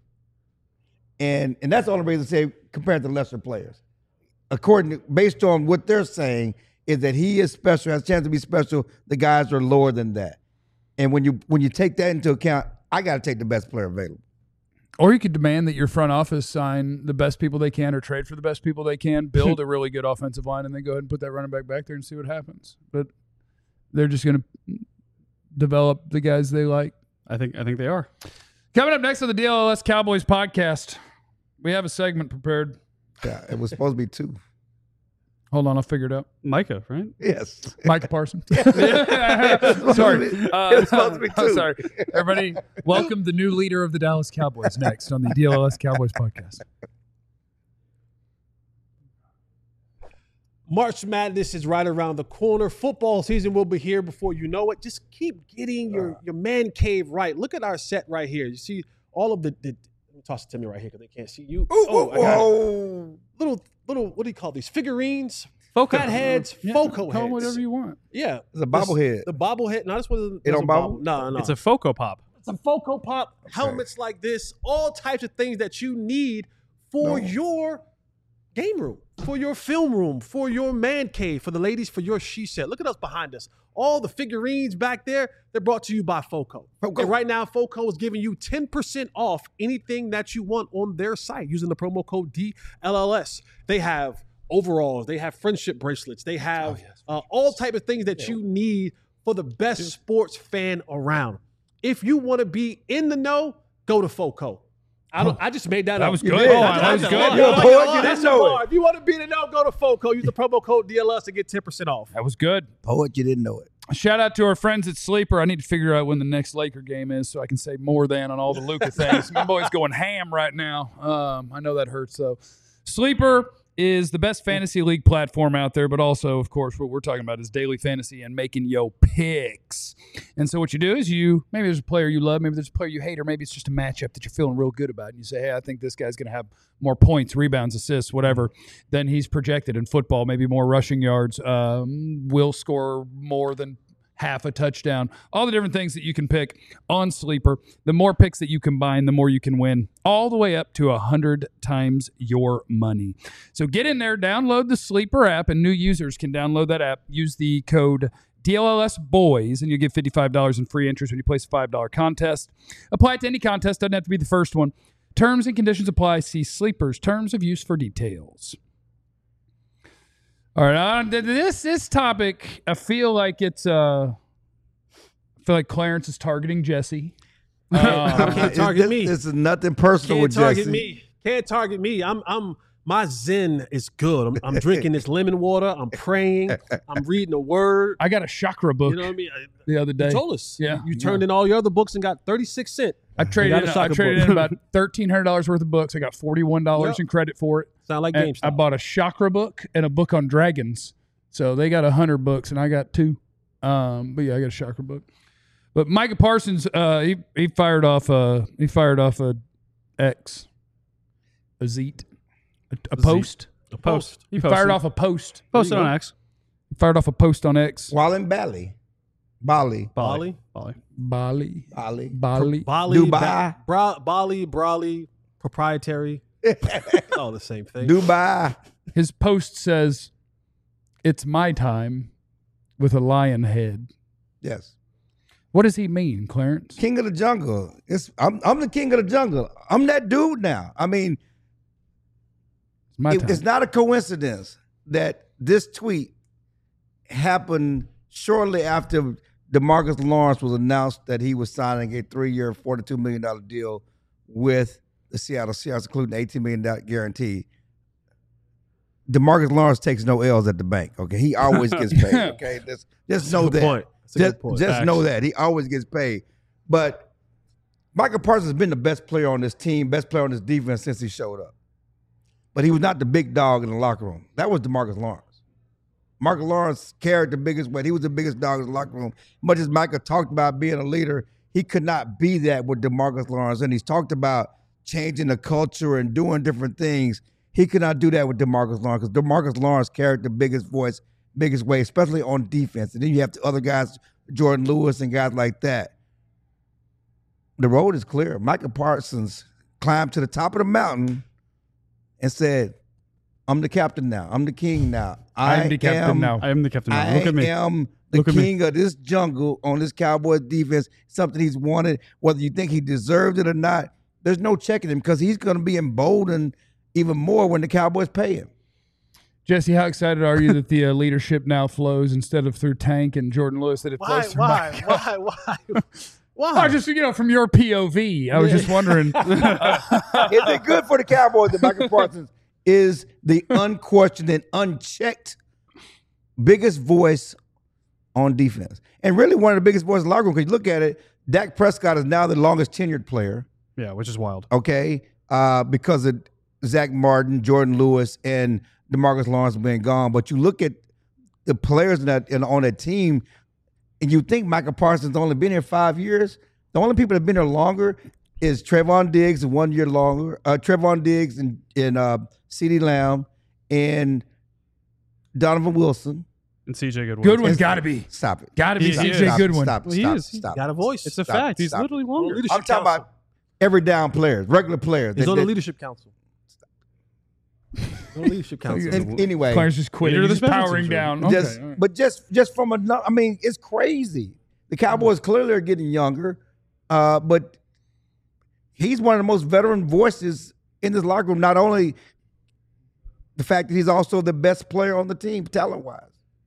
and and that's the only reason to say compared to lesser players. According to, based on what they're saying, is that he is special, has a chance to be special. The guys are lower than that, and when you when you take that into account, I got to take the best player available. Or you could demand that your front office sign the best people they can or trade for the best people they can, build a really good offensive line, and then go ahead and put that running back back there and see what happens. But they're just going to develop the guys they like. I think I think they are. Coming up next on the D L L S Cowboys podcast, we have a segment prepared. Yeah, it was supposed to be two. Hold on, I'll figure it out. Micah, right? Yes. Micah Parsons. supposed sorry. to be- Uh, it was supposed to be I'm two. sorry. Everybody, welcome the new leader of the Dallas Cowboys next on the D L L S Cowboys podcast. March Madness is right around the corner. Football season will be here before you know it. Just keep getting your, your man cave right. Look at our set right here. You see all of the, the let me toss it to me right here because they can't see you. Ooh, oh, ooh, I got it. whoa. Little, little, what do you call these? Figurines. Foco. Fat heads, Yeah, Foco call heads. it whatever you want. Yeah. It's a bobblehead. The bobblehead. No, this was It don't bobble? No, no. It's a Foco Pop. It's a Foco Pop, helmets like this, all types of things that you need for No. your game room, for your film room, for your man cave, for the ladies, for your she set. Look at us behind us. All the figurines back there, they're brought to you by Foco. Foco. And right now, Foco is giving you ten percent off anything that you want on their site using the promo code D L L S. They have overalls, they have friendship bracelets, they have uh, all type of things that you need for the best sports fan around. If you want to be in the know, go to Foco. I don't. I just made that, That up. was You good. did. Oh, That's that was a good. bar. You're a That's poet, a you bar. didn't That's a know bar. it. If you want to be in the know, go to Foco. Use the promo code D L S to get ten percent off. That was good. Poet, you didn't know it. Shout out to our friends at Sleeper. I need to figure out when the next Laker game is so I can say more than on all the Luka things. My boy's going ham right now. Um, I know that hurts though. Sleeper is the best fantasy league platform out there, but also, of course, what we're talking about is daily fantasy and making yo picks. And so what you do is you, maybe there's a player you love, maybe there's a player you hate, or maybe it's just a matchup that you're feeling real good about. And you say, hey, I think this guy's going to have more points, rebounds, assists, whatever, than he's projected in football, maybe more rushing yards, um, will score more than half a touchdown, all the different things that you can pick on Sleeper. The more picks that you combine, the more you can win, all the way up to one hundred times your money. So get in there, download the Sleeper app, and new users can download that app. Use the code D L L S Boys, and you get fifty-five dollars in free interest when you place a five dollar contest. Apply it to any contest, doesn't have to be the first one. Terms and conditions apply. See Sleeper's terms of use for details. All right, uh, th- this this topic, I feel like it's. Uh, I feel like Clarence is targeting Jesse. Um, Can't target This- me. This is nothing personal Can't with target Jesse. me. Can't target me. I'm. I'm. My zen is good. I'm, I'm drinking this lemon water. I'm praying. I'm reading the word. I got a chakra book You know what I mean? I- the other day. You told us. Yeah. You, you turned in all your other books and got thirty-six cents. I traded got in, a I chakra traded book. in about thirteen hundred dollars worth of books. I got forty-one dollars Yep. in credit for it. Sound like And GameStop. I bought a chakra book and a book on dragons. So they got one hundred books and I got two. Um, but yeah, I got a chakra book. But Micah Parsons, uh, he he fired off a he fired off a X, a zeet, a, a post. A post. He fired off a post. Posted There you on go. X. He fired off a post on X. While in Bali. Bali. Bali. Bali. Bali, Bali. Bali. Bali. Dubai. Ba- Bra- Bali. Brawley. Proprietary. All the same thing. Dubai. His post says, "It's my time," with a lion head. Yes. What does he mean, Clarence? King of the jungle. It's I'm I'm the king of the jungle. I'm that dude now. I mean, It's my it- time. it's not a coincidence that this tweet happened shortly after DeMarcus Lawrence was announced that he was signing a three-year, forty-two million dollars deal with the Seattle Seahawks, including an eighteen million dollars guarantee. DeMarcus Lawrence takes no L's at the bank. Okay, he always gets paid. Okay, just, just know Good that. point. That's a Just, good point. just Facts. know that he always gets paid. But Michael Parsons has been the best player on this team, best player on this defense since he showed up. But he was not the big dog in the locker room. That was DeMarcus Lawrence. Marcus Lawrence carried the biggest weight. He was the biggest dog in the locker room. Much as Michael talked about being a leader, he could not be that with DeMarcus Lawrence. And he's talked about changing the culture and doing different things. He could not do that with DeMarcus Lawrence because DeMarcus Lawrence carried the biggest voice, biggest weight, especially on defense. And then you have the other guys, Jordan Lewis and guys like that. The road is clear. Michael Parsons climbed to the top of the mountain and said, I'm the captain now. I'm the king now. I am the captain am, now. I am the captain. now. I Look at me. am the Look at me. king of this jungle on this Cowboys defense. Something he's wanted, whether you think he deserved it or not. There's no checking him because he's going to be emboldened even more when the Cowboys pay him. Jesse, how excited are you that the uh, leadership now flows instead of through Tank and Jordan Lewis, that it Why? flows through Why? Mike? Why? Why? Oh, Why? just, you know, from your P O V. I was Yeah. just wondering. Is it good for the Cowboys that Michael Parsons is the unquestioned and unchecked biggest voice on defense? And really one of the biggest voices in the locker room, because you look at it, Dak Prescott is now the longest tenured player, Yeah, which is wild. okay, uh, because of Zach Martin, Jordan Lewis, and DeMarcus Lawrence being gone. But you look at the players in that, in, on that team, and you think Michael Parsons only been here five years. The only people that have been here longer is Trayvon Diggs, one year longer. Uh, Trayvon Diggs and, and uh, CeeDee Lamb and Donovan Wilson. And C J Goodwin. Goodwin's got to be. Stop it. Got to be He- C he J is. Goodwin. Stop, Well, he stop, is. He's stop. Got a voice. It's a Stop, fact. He's stop. literally On the longer. leadership I'm talking council. about every down players, regular players. He's that- on the that- leadership council. He's on the leadership council. an- anyway, Players just quitting. Leader of the Just special powering teams, down. right? just Okay, all right. but just just from a, I mean, it's crazy. The Cowboys clearly are getting younger, uh, but he's one of the most veteran voices in this locker room. Not only the fact that he's also the best player on the team, talent wise.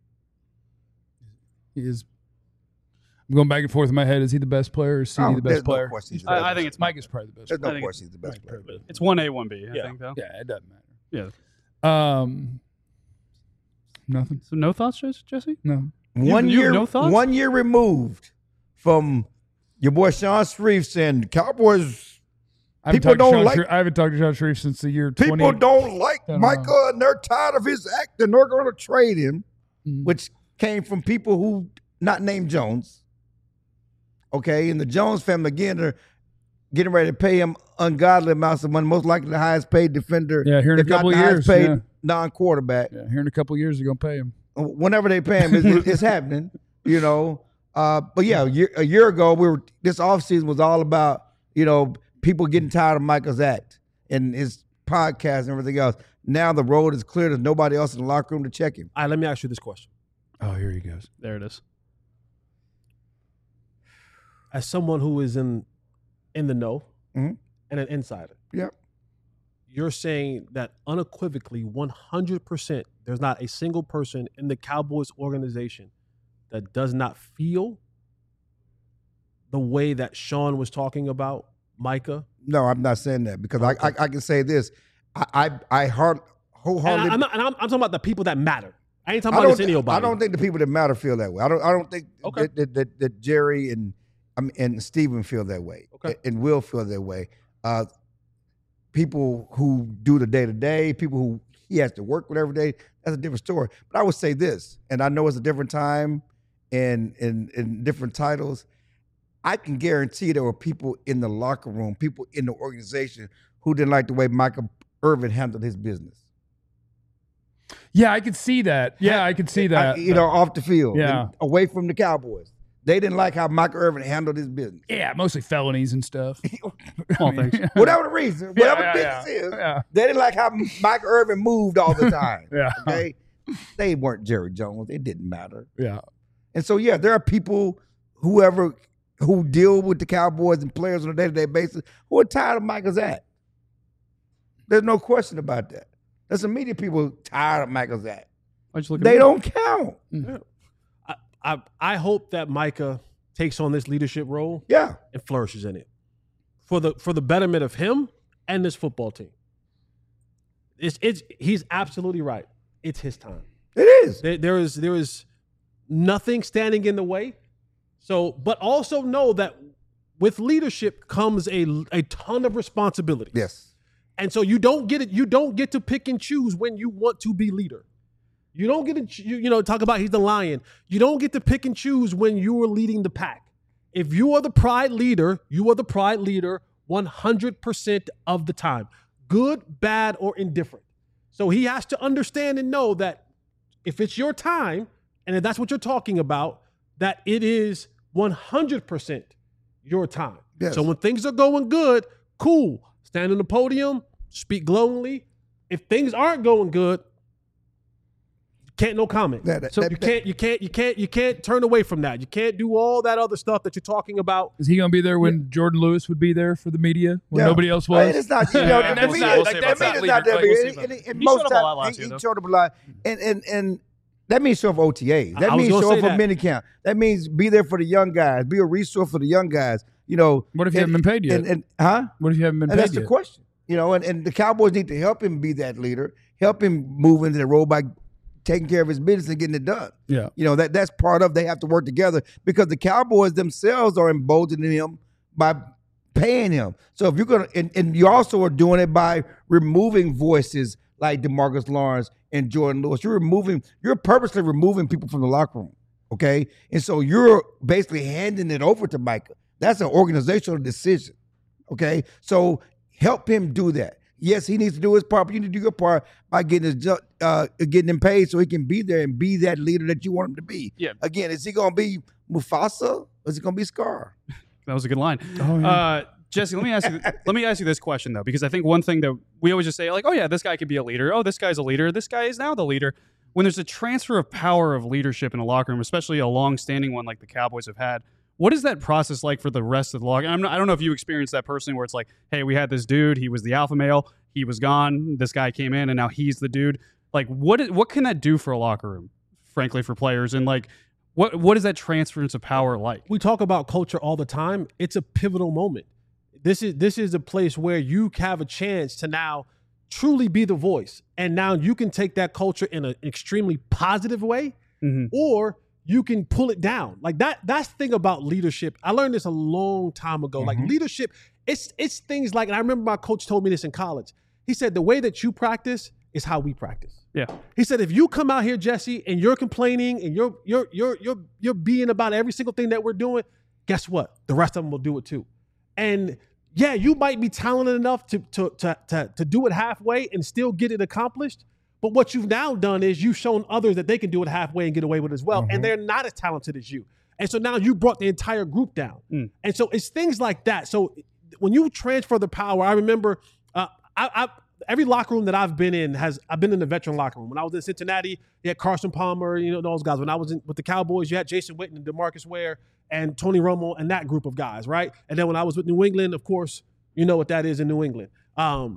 He is. I'm going back and forth in my head. Is he the best player or is C D Oh, the there's best no player? question he's the I- best I think player. it's Mike is probably the best There's player. no I think question he's the best Right, player. perfect. It's one A, one B, I Yeah. think, though. Yeah, it doesn't matter. Yeah. Um, nothing. So no thoughts, Jess- Jesse? No. One you have year, no thoughts? one year removed from your boy Sean Shreve saying the Cowboys. I haven't, People talked to don't Sean like- Shreve- I haven't talked to Sean Shreve since the year twenty. People don't like I don't Micah, and they're tired of his act, and they're going to trade him, Mhm. which came from people who not named Jones. Okay, and the Jones family again are getting ready to pay him ungodly amounts of money, most likely the highest paid defender. Yeah, here in a if not couple the of highest years, paid yeah. non-quarterback. Yeah, here in a couple of years, they're going to pay him. Whenever they pay him, it's, it's happening. You know, uh, but yeah, a year, a year ago, we were this offseason was all about you know people getting tired of Michael's act and his podcast and everything else. Now the road is clear. There's nobody else in the locker room to check him. All right, let me ask you this question. Oh, here he goes. There it is. As someone who is in in the know Mhm. and an insider, Yep. you're saying that unequivocally one hundred percent there's not a single person in the Cowboys organization that does not feel the way that Sean was talking about Micah. No, I'm not saying that because I, I I can say this. I I, I heart And, wholeheartedly. I, am not, and I'm, I'm talking about the people that matter. I ain't talking I about don't, this thi- anybody. I don't think the people that matter feel that way. I don't. I don't think Okay. that, that, that, that Jerry and I mean, and Steven feel that way. Okay. And Will feel that way. Uh, people who do the day to day, people who he has to work with every day. That's a different story. But I would say this, and I know it's a different time and and and different titles. I can guarantee there were people in the locker room, people in the organization who didn't like the way Michael Irvin handled his business. Yeah, I could see that. Yeah, I could see that. I- you know, off the field, Yeah. and away from the Cowboys. They didn't like how Michael Irvin handled his business. Yeah, mostly felonies and stuff. All things. Whatever the reason, whatever yeah, the yeah, business is, yeah. they didn't like how Michael Irvin moved all the time. Yeah. Okay, they weren't Jerry Jones. It didn't matter. Yeah. And so, yeah, there are people, whoever who deal with the Cowboys and players on a day-to-day basis, who are tired of Michael's act. There's no question about that. There's some media people tired of Michael's act. Why'd you look at They me? don't count. I, I, I hope that Micah takes on this leadership role Yeah. and flourishes in it for the for the betterment of him and this football team. It's it's he's absolutely right. It's his time. It is. There, there is there is nothing standing in the way. So, but also know that with leadership comes a a ton of responsibility. Yes. And so you don't get it. You don't get to pick and choose when you want to be leader. You don't get to ch- you, you know talk about he's the lion. You don't get to pick and choose when you are leading the pack. If you are the pride leader, you are the pride leader one hundred percent of the time, good, bad, or indifferent. So he has to understand and know that if it's your time, and if that's what you're talking about, that it is one hundred percent your time. Yes. So when things are going good, cool. Stand on the podium, speak glowingly. If things aren't going good, can't no comment. That- that- so that- you can't, you can't, you can't, you can't turn away from that. You can't do all that other stuff that you're talking about. Is he going to be there when Jordan Lewis would be there for the media when Yeah. nobody else I mean, was? it's not, you know, And the that's media, not- like, like, that that's media not is not that leader- big. like, And- we'll see and- about and He most showed up a lot times, last he- year, he though. showed up a lot. And, and, and that means show up O T As. That I was means gonna show say up for that. mini camp. That means be there for the young guys. Be a resource for the young guys. You know. What if you and- haven't been paid yet? And, and huh? What if you haven't been And paid that's the yet? question. You know, and, and the Cowboys need to help him be that leader, help him move into the role by taking care of his business and getting it done. Yeah. You know, that that's part of they have to work together because the Cowboys themselves are emboldening him by paying him. So if you're gonna and, and you also are doing it by removing voices like DeMarcus Lawrence and Jordan Lewis. You're removing, you're purposely removing people from the locker room. Okay. And so you're basically handing it over to Micah. That's an organizational decision. Okay. So help him do that. yes, he needs to do his part, but you need to do your part by getting his ju- uh, getting him paid so he can be there and be that leader that you want him to be. Yeah. Again, is he going to be Mufasa or is he going to be Scar? That was a good line. Oh, yeah. uh, Jesse, let me ask you. Let me ask you this question though, because I think one thing that we always just say, like, oh yeah, this guy could be a leader. Oh, this guy's a leader. This guy is now the leader. When there's a transfer of power of leadership in a locker room, especially a long-standing one like the Cowboys have had, what is that process like for the rest of the locker? I'm not, I don't know if you experienced that personally, where it's like, hey, we had this dude, he was the alpha male, he was gone, this guy came in, and now he's the dude. Like, what is, what can that do for a locker room, frankly, for players, and like, what what is that transference of power like? We talk about culture all the time. It's a pivotal moment. This is this is a place where you have a chance to now truly be the voice, and now you can take that culture in an extremely positive way, Mhm. or you can pull it down. Like that. That's the thing about leadership. I learned this a long time ago. Like leadership, it's it's things like, and I remember my coach told me this in college. He said the way that you practice is how we practice. Yeah. He said, if you come out here, Jesse, and you're complaining and you're you're you're you're you're being about every single thing that we're doing, guess what? The rest of them will do it too. And yeah, you might be talented enough to to to to, to do it halfway and still get it accomplished. But what you've now done is you've shown others that they can do it halfway and get away with it as well. And they're not as talented as you. And so now you brought the entire group down. Mm. And so it's things like that. So when you transfer the power, I remember uh, I, I every locker room that I've been in has I've been in the veteran locker room. When I was in Cincinnati, you had Carson Palmer, you know, those guys. When I was in, with the Cowboys, you had Jason Witten and DeMarcus Ware and Tony Romo and that group of guys, right? And then when I was with New England, of course, you know what that is in New England. Um,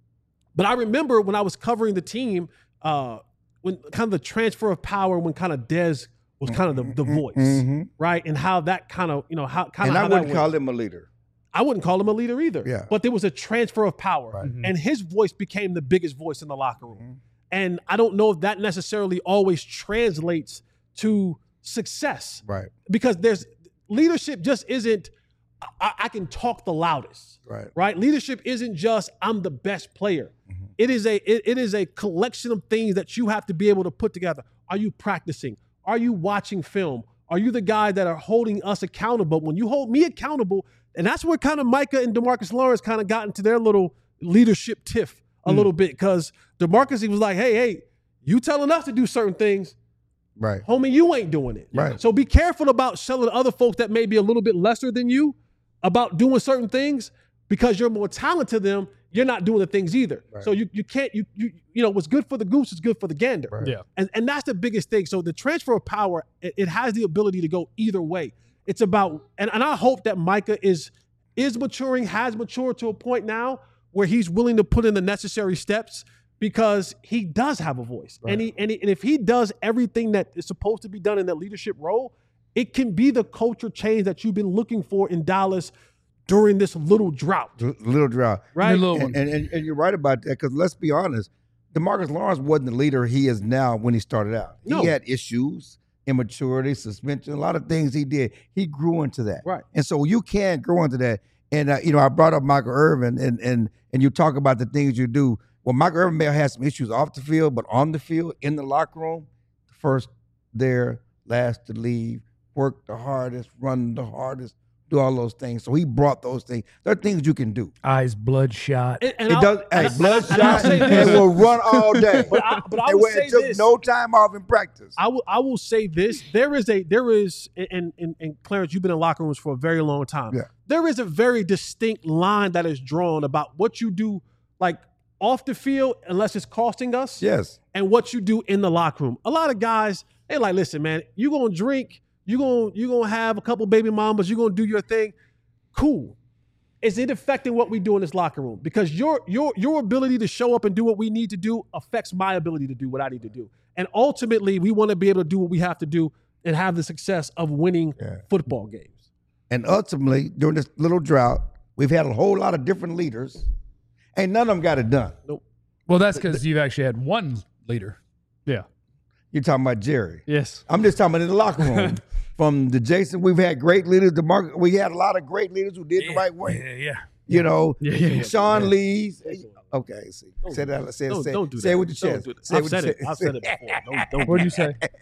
but I remember when I was covering the team, uh, when kind of the transfer of power, when kind of Dez was kind of the, the voice, Mhm. right? And how that kind of, you know, how kind And of I how that wouldn't went. call him a leader. I wouldn't call him a leader either. Yeah. But there was a transfer of power. Right. And his voice became the biggest voice in the locker room. And I don't know if that necessarily always translates to success. Right. Because there's leadership just isn't I, I can talk the loudest. Right. Right? Leadership isn't just I'm the best player. Mm-hmm. It is a it, it is a collection of things that you have to be able to put together. Are you practicing? Are you watching film? Are you the guy that are holding us accountable? When you hold me accountable, and that's where kind of Micah and DeMarcus Lawrence kind of got into their little leadership tiff a Mm. little bit, because DeMarcus, he was like, hey, hey, you telling us to do certain things, Right. homie, you ain't doing it. Right. So be careful about selling other folks that may be a little bit lesser than you about doing certain things, because you're more talented than them. You're not doing the things either. Right. So you you can't you you you know what's good for the goose is good for the gander. Right. Yeah. And and that's the biggest thing. So the transfer of power, it, it has the ability to go either way. It's about and, and I hope that Micah is is maturing, has matured to a point now where he's willing to put in the necessary steps, because he does have a voice. Right. And he and, he, and if he does everything that is supposed to be done in that leadership role, it can be the culture change that you've been looking for in Dallas during this little drought. L- Little drought. Right? Little And, one. and, and, and you're right about that, because let's be honest, DeMarcus Lawrence wasn't the leader he is now when he started out. No. He had issues, immaturity, suspension, a lot of things he did. He grew into that. Right. And so you can grow into that. And, uh, you know, I brought up Michael Irvin, and, and, and you talk about the things you do. Well, Michael Irvin may have had some issues off the field, but on the field, in the locker room, first there, last to leave, work the hardest, run the hardest, do all those things. So he brought those things. There are things you can do. Eyes bloodshot. And, and It I'll- does. and Hey, I- bloodshot, and I'll say and this. will run all day. But I, but I And will where say it took this. no time off in practice. I will I will say this. There is a there is and and, and Clarence, you've been in locker rooms for a very long time. Yeah. There is a very distinct line that is drawn about what you do like off the field, unless it's costing us, Yes. and what you do in the locker room. A lot of guys, they like, listen, man, you gonna drink, you gonna you gonna have a couple baby mamas, you gonna do your thing. Cool. Is it affecting what we do in this locker room? Because your your your ability to show up and do what we need to do affects my ability to do what I need to do. And ultimately, we want to be able to do what we have to do and have the success of winning Yeah. football games. And ultimately, during this little drought, we've had a whole lot of different leaders. Ain't none of them got it done. Well, that's because you've actually had one leader. Yeah. You're talking about Jerry. Yes. I'm just talking about in the locker room. From the Jason, we've had great leaders. The market, we had a lot of great leaders who did the right way. Yeah, yeah. You know, Yeah, yeah, yeah. Sean Lee's. Okay, see, Don't say do that. that. Say, Don't, say, don't do say that. it with your Don't chest. do that. Say I've with said your it. chest. I've said it before. Don't, don't do What'd you that. say?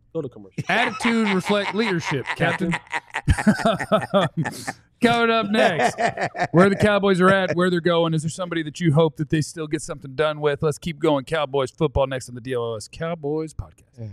Go to commercial. Attitude reflect leadership, Captain. Coming up next, where the Cowboys are at, where they're going. Is there somebody that you hope that they still get something done with? Let's keep going. Cowboys football next on the D L O S Cowboys podcast.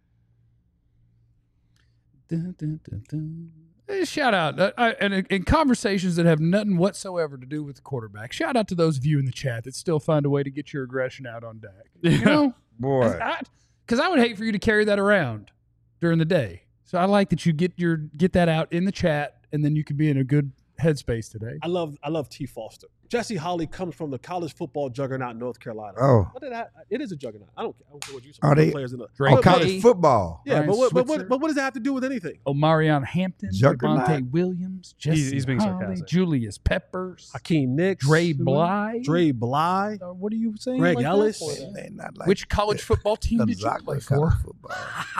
Dun, dun, dun, dun. Hey, shout out uh, I, and in conversations that have nothing whatsoever to do with the quarterback. Shout out to those of you in the chat that still find a way to get your aggression out on Dak. You know, Boy. because I, I would hate for you to carry that around during the day. So I like that you get your get that out in the chat, and then you can be in a good headspace today. I love I love T. Foster. Jesse Holly comes from the college football juggernaut North Carolina. Oh. What did I, it is a juggernaut. I don't care. I don't care what you say. Are they- players in the Drake Oh, May, college football. Yeah, Ryan but what, but, Switzer. what, but what does that have to do with anything? Omarion Hampton, Juggernaut. Devontae Williams, Jesse He's- he's being Holly, sarcastic. Julius Peppers, Hakeem Nicks, Dre Bly. Dre Bly. Uh, what are you saying? Greg like that Ellis. for that? Man, not like Which college football team did you Gonzaga play college for? football.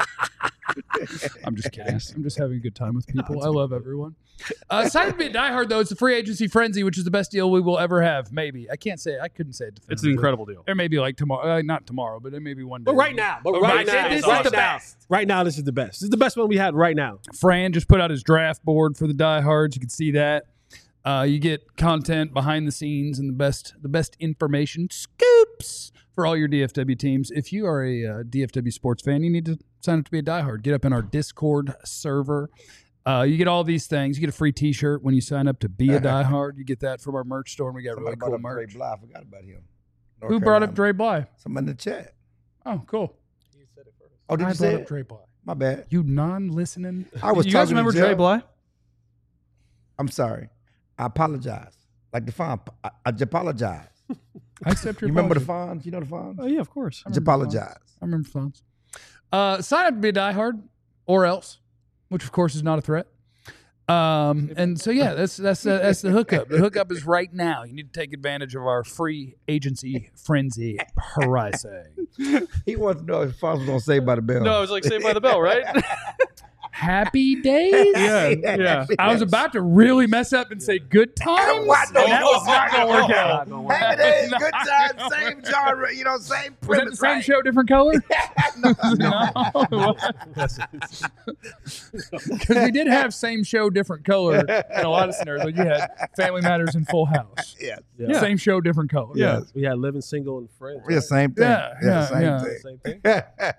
I'm just kidding. I'm just having a good time with people. I love everyone. Uh, it's time to be a diehard, though. It's a free agency frenzy, which is the best deal we will ever have. Maybe. I can't say. I couldn't say it It's definitively. an incredible deal. There may be like tomorrow. Uh, not tomorrow, but it may be one day. But right now, but But right, right now, now, this is right the now, best. right now, this is the best. This is the best one we had right now. Fran just put out his draft board for the diehards. You can see that. Uh, you get content behind the scenes and the best the best information scoops for all your D F W teams. If you are a uh, D F W sports fan, you need to sign up to be a diehard. Get up in our Discord server. Uh, you get all these things. You get a free T-shirt when you sign up to be a diehard. You get that from our merch store, and we got Somebody really brought cool up Dre merch. Bly. I forgot about him. North Who brought up Carolina. Dre Bly? Somebody in the chat. Oh, cool. Oh, did I you brought say up it? Dre Bly. My bad. You non-listening. I was you talking guys remember to Dre Jeff. Bly? I'm sorry. I apologize. Like the Fawn. I, I just apologize. I accept your You remember the apology. Fawns? You know the Fawns? Oh yeah, of course. I just apologize. I remember phones. Uh, sign up to be a diehard, or else, which of course is not a threat. Um, and so yeah, that's that's uh, that's the hookup. The hookup is right now. You need to take advantage of our free agency frenzy pricing. He wants to know if Fawns was on Saved by the Bell. No, it was like Saved by the Bell, right? Happy days. yeah, yeah. I was about to really mess up and say good times. What? No, and that no, was not no, gonna work no. out. Happy days, good time, same genre, you know, same Was that the premise. same right? show, different color? no, No. Because we did have same show, different color in a lot of scenarios. Like you had Family Matters and Full House. Yes. Yeah. Same show, different color. Yeah. We had Living Single and Friends. Yeah, same thing. Yeah, yeah, same yeah. thing. Same thing.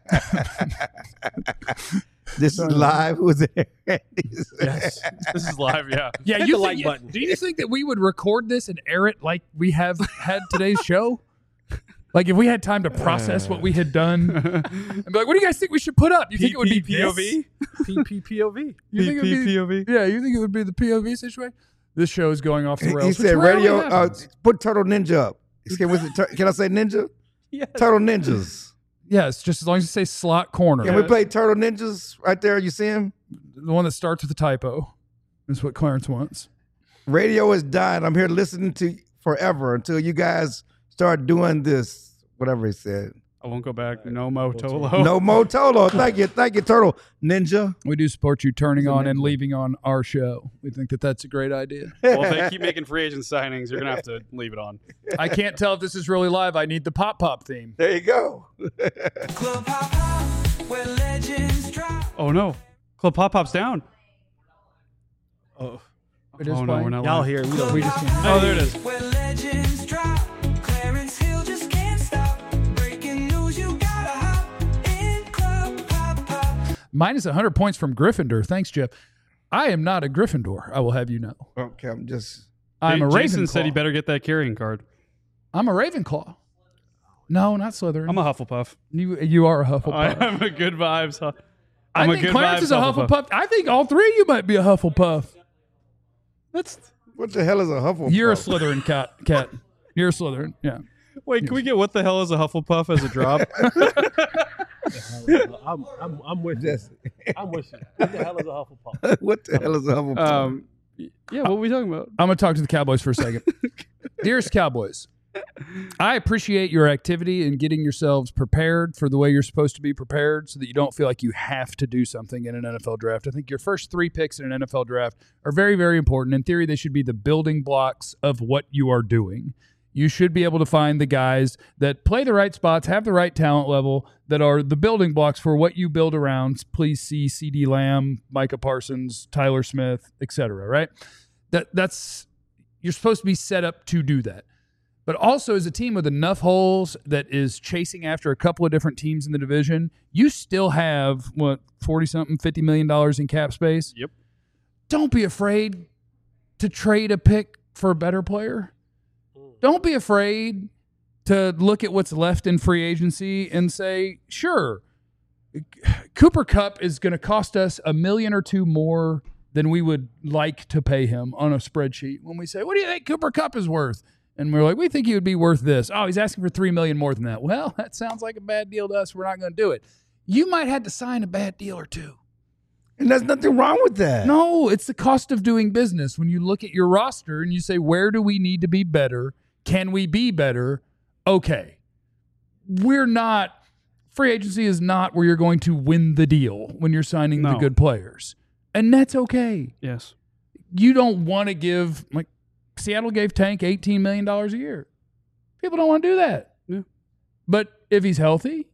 This is live. Who's there? Yes. This is live. Yeah. Yeah, Hit you the think, like button. Do you think that we would record this and air it like we have had today's show? Like if we had time to process what we had done and be like, what do you guys think we should put up? You think it would be P O V? P P P O V. You think it would be, P O V? yeah, you think it would be the P O V situation? This show is going off the He, rails. he which said, rarely "Radio, uh, happens. put Turtle Ninja up." Can, was it tur- can I say Ninja? Yes. Turtle Ninjas. Yes, just as long as you say slot corner. Can we play Turtle Ninjas right there? You see him? The one that starts with a typo is what Clarence wants. Radio is dying. I'm here listening to forever until you guys start doing this. Whatever he said. I won't go back. No Mo Tolo. No Mo Tolo. Thank you. Thank you, Turtle Ninja. We do support you turning on and leaving on our show. We think that that's a great idea. Well, if they keep making free agent signings, you're gonna have to leave it on. I can't tell if this is really live. I need the pop pop theme. There you go. Club Hop Hop, where legends drop. Oh no, Club Pop Pop's down. Oh, It is oh no, playing. we're not. y'all live. here. We don't. We just can't. Oh, there it is. Where legends drop. Clarence Hill just can't stop. Breaking news, you gotta hop in Club Hop Hop. Minus one hundred points from Gryffindor. Thanks, Jeff. I am not a Gryffindor, I will have you know. Okay, I'm just. I'm a Jason Ravenclaw. said he better get that carrying card. I'm a Ravenclaw. No, not Slytherin. I'm a Hufflepuff. you, you are a Hufflepuff. I am a good vibes. Hu- I I'm a think good Clarence vibes is a Hufflepuff. I think all three of you might be a Hufflepuff. That's What the hell is a Hufflepuff? You're a Slytherin cat. Cat. You're a Slytherin. Yeah. wait. Can we get what the hell is a Hufflepuff as a drop? I'm, I'm, I'm with you. Jesse. I'm with you. What the hell is a Hufflepuff? What the hell is a Hufflepuff? um, yeah. What are we talking about? I'm going to talk to the Cowboys for a second. Dearest Cowboys, I appreciate your activity in getting yourselves prepared for the way you're supposed to be prepared so that you don't feel like you have to do something in an N F L draft. I think your first three picks in an N F L draft are very, very important. In theory, they should be the building blocks of what you are doing. You should be able to find the guys that play the right spots, have the right talent level, that are the building blocks for what you build around. Please see CeeDee Lamb, Micah Parsons, Tyler Smith, et cetera, right? That that's you're supposed to be set up to do that. But also as a team with enough holes that is chasing after a couple of different teams in the division, you still have, what, forty-something, fifty million dollars in cap space? Yep. Don't be afraid to trade a pick for a better player. Don't be afraid to look at what's left in free agency and say, sure, Cooper Kupp is going to cost us a million or two more than we would like to pay him on a spreadsheet. When we say, what do you think Cooper Kupp is worth? And we're like, we think he would be worth this. Oh, he's asking for three million dollars more than that. Well, that sounds like a bad deal to us. We're not going to do it. You might have to sign a bad deal or two. And there's nothing wrong with that. No, it's the cost of doing business. When you look at your roster and you say, where do we need to be better? Can we be better? Okay. We're not, free agency is not where you're going to win the deal when you're signing the No. good players. And that's okay. Yes. You don't want to give, like, Seattle gave Tank eighteen million dollars a year. People don't want to do that. Yeah. But if he's healthy,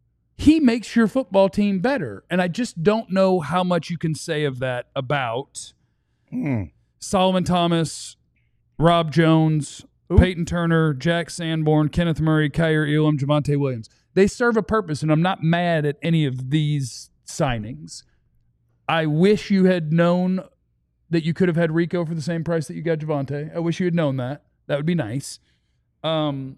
he makes your football team better. And I just don't know how much you can say of that about Mm. Solomon Thomas, Rob Jones, Who? Peyton Turner, Jack Sanborn, Kenneth Murray, Kyer Elam, Javonte Williams. They serve a purpose, and I'm not mad at any of these signings. I wish you had known that you could have had Rico for the same price that you got Javonte. I wish you had known that. That would be nice. Um,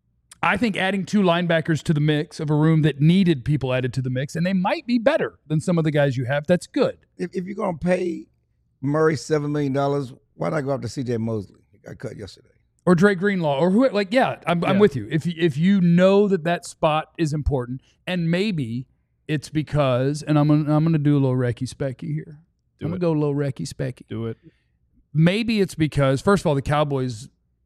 I think adding two linebackers to the mix of a room that needed people added to the mix, and they might be better than some of the guys you have, that's good. If, if you're going to pay Murray seven million dollars, why not go after C J Mosley? He got cut yesterday. Or Dre Greenlaw, or who, like, yeah, I'm, I'm Yeah. with you. If you- if you know that that spot is important, and maybe it's because, and I'm gonna, I'm gonna do a little Recky Specky here. Do I'm it. gonna go a little Recky Specky. Do it. Maybe it's because, first of all, the Cowboys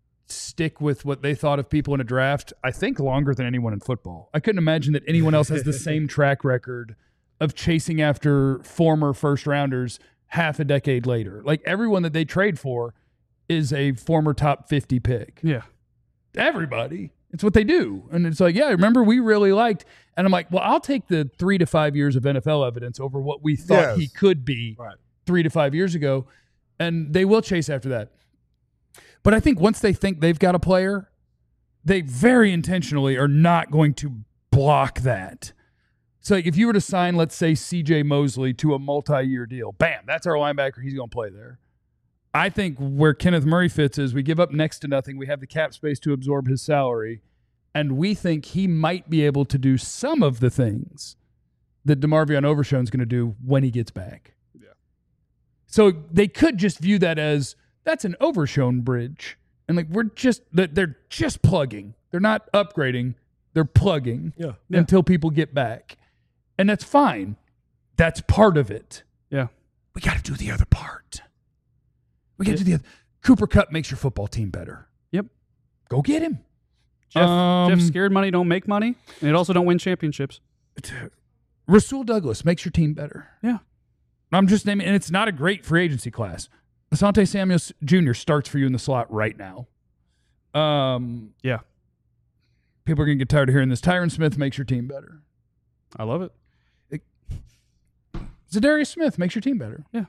stick with what they thought of people in a draft, I think, longer than anyone in football. I couldn't imagine that anyone else has the same track record of chasing after former first rounders half a decade later. Like, everyone that they trade for is a former top fifty pick. Yeah. Everybody. It's what they do. And it's like, yeah, remember we really liked. And I'm like, well, I'll take the three to five years of N F L evidence over what we thought Yes. he could be Right. three to five years ago. And they will chase after that. But I think once they think they've got a player, they very intentionally are not going to block that. So like if you were to sign, let's say, C J Mosley to a multi-year deal, bam, that's our linebacker. He's going to play there. I think where Kenneth Murray fits is we give up next to nothing. We have the cap space to absorb his salary, and we think he might be able to do some of the things that DeMarvion Overshown's going to do when he gets back. Yeah. So they could just view that as that's an Overshown bridge, and like we're just they're just plugging. They're not upgrading. They're plugging Yeah. until people get back, and that's fine. That's part of it. Yeah. We got to do the other part. We got to do the other. Cooper Kupp makes your football team better. Yep. Go get him. Jeff, Um, Jeff, scared money don't make money, and it also don't win championships. Rasul Douglas makes your team better. Yeah. I'm just naming, and it's not a great free agency class. Asante Samuel Junior starts for you in the slot right now. Um, Yeah. People are going to get tired of hearing this. Tyron Smith makes your team better. I love it. Zadarius Smith makes your team better. Yeah.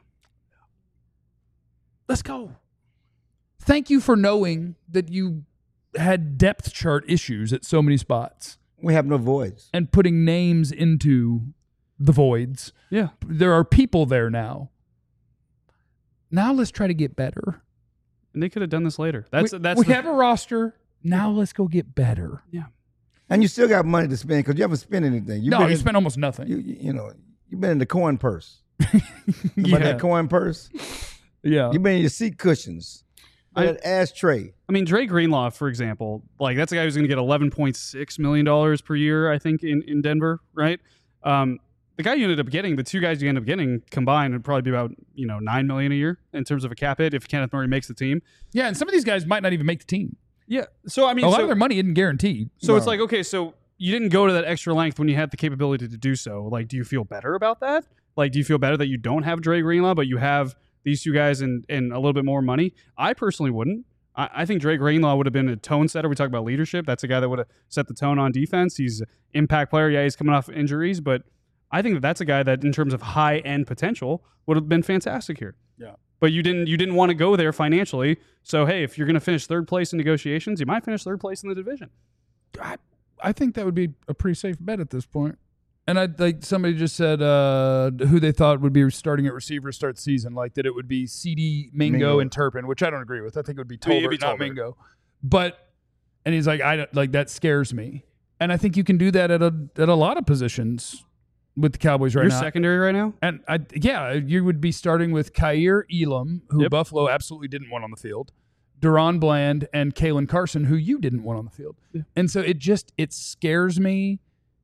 Let's go. Thank you for knowing that you had depth chart issues at so many spots We have no voids. and putting names into the voids. Yeah. There are people there now. Now let's try to get better. And they could have done this later. That's we, that's we the- have a roster. Now let's go get better. yeah. And you still got money to spend because you haven't spent anything. You've no, been you in- spent almost nothing. You, you you know, you've been in the coin purse. yeah. About that coin purse? yeah. You've been in your seat cushions. I- That ashtray. I mean, Dre Greenlaw, for example, like that's a guy who's going to get eleven point six million dollars per year, I think, in, in Denver, right? Um, the guy you ended up getting, the two guys you ended up getting combined would probably be about, you know, nine million dollars a year in terms of a cap hit if Kenneth Murray makes the team. Yeah, and some of these guys might not even make the team. Yeah. So, I mean, A lot so, of their money isn't guaranteed. so it's No. like, okay, so you didn't go to that extra length when you had the capability to do so. Like, do you feel better about that? Like, do you feel better that you don't have Dre Greenlaw, but you have these two guys and, and a little bit more money? I personally wouldn't. I, I think Drake Greenlaw would have been a tone setter. We talk about leadership. That's a guy that would have set the tone on defense. He's an impact player. Yeah, he's coming off injuries, but I think that that's a guy that, in terms of high end potential, would have been fantastic here. Yeah. But you didn't. You didn't want to go there financially. So hey, if you're going to finish third place in negotiations, you might finish third place in the division. I, I think that would be a pretty safe bet at this point. And I like somebody just said uh, who they thought would be starting at receiver to start the season, like that it would be C D, Mingo, Mingo. and Turpin, which I don't agree with. I think it would be I mean, Tolbert, it'd be not Tolbert. Mingo. But and he's like, I don't, like that scares me. And I think you can do that at a at a lot of positions with the Cowboys right You're now. secondary right now. And I, yeah, you would be starting with Kyer Elam, who Yep. Buffalo absolutely didn't want on the field, Deron Bland, and Kalen Carson, who you didn't want on the field. Yeah. And so it just it scares me.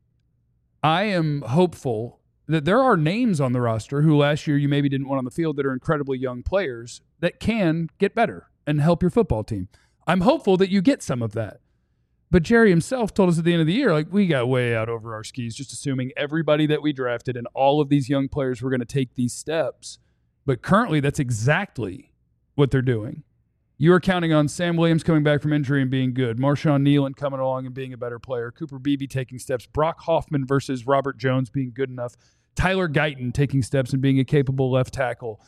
I am hopeful that there are names on the roster who last year you maybe didn't want on the field that are incredibly young players that can get better and help your football team. I'm hopeful that you get some of that. But Jerry himself told us at the end of the year, like, we got way out over our skis, just assuming everybody that we drafted and all of these young players were going to take these steps. But currently, that's exactly what they're doing. You are counting on Sam Williams coming back from injury and being good, Marshawn Nealon coming along and being a better player, Cooper Beebe taking steps, Brock Hoffman versus Robert Jones being good enough, Tyler Guyton taking steps and being a capable left tackle,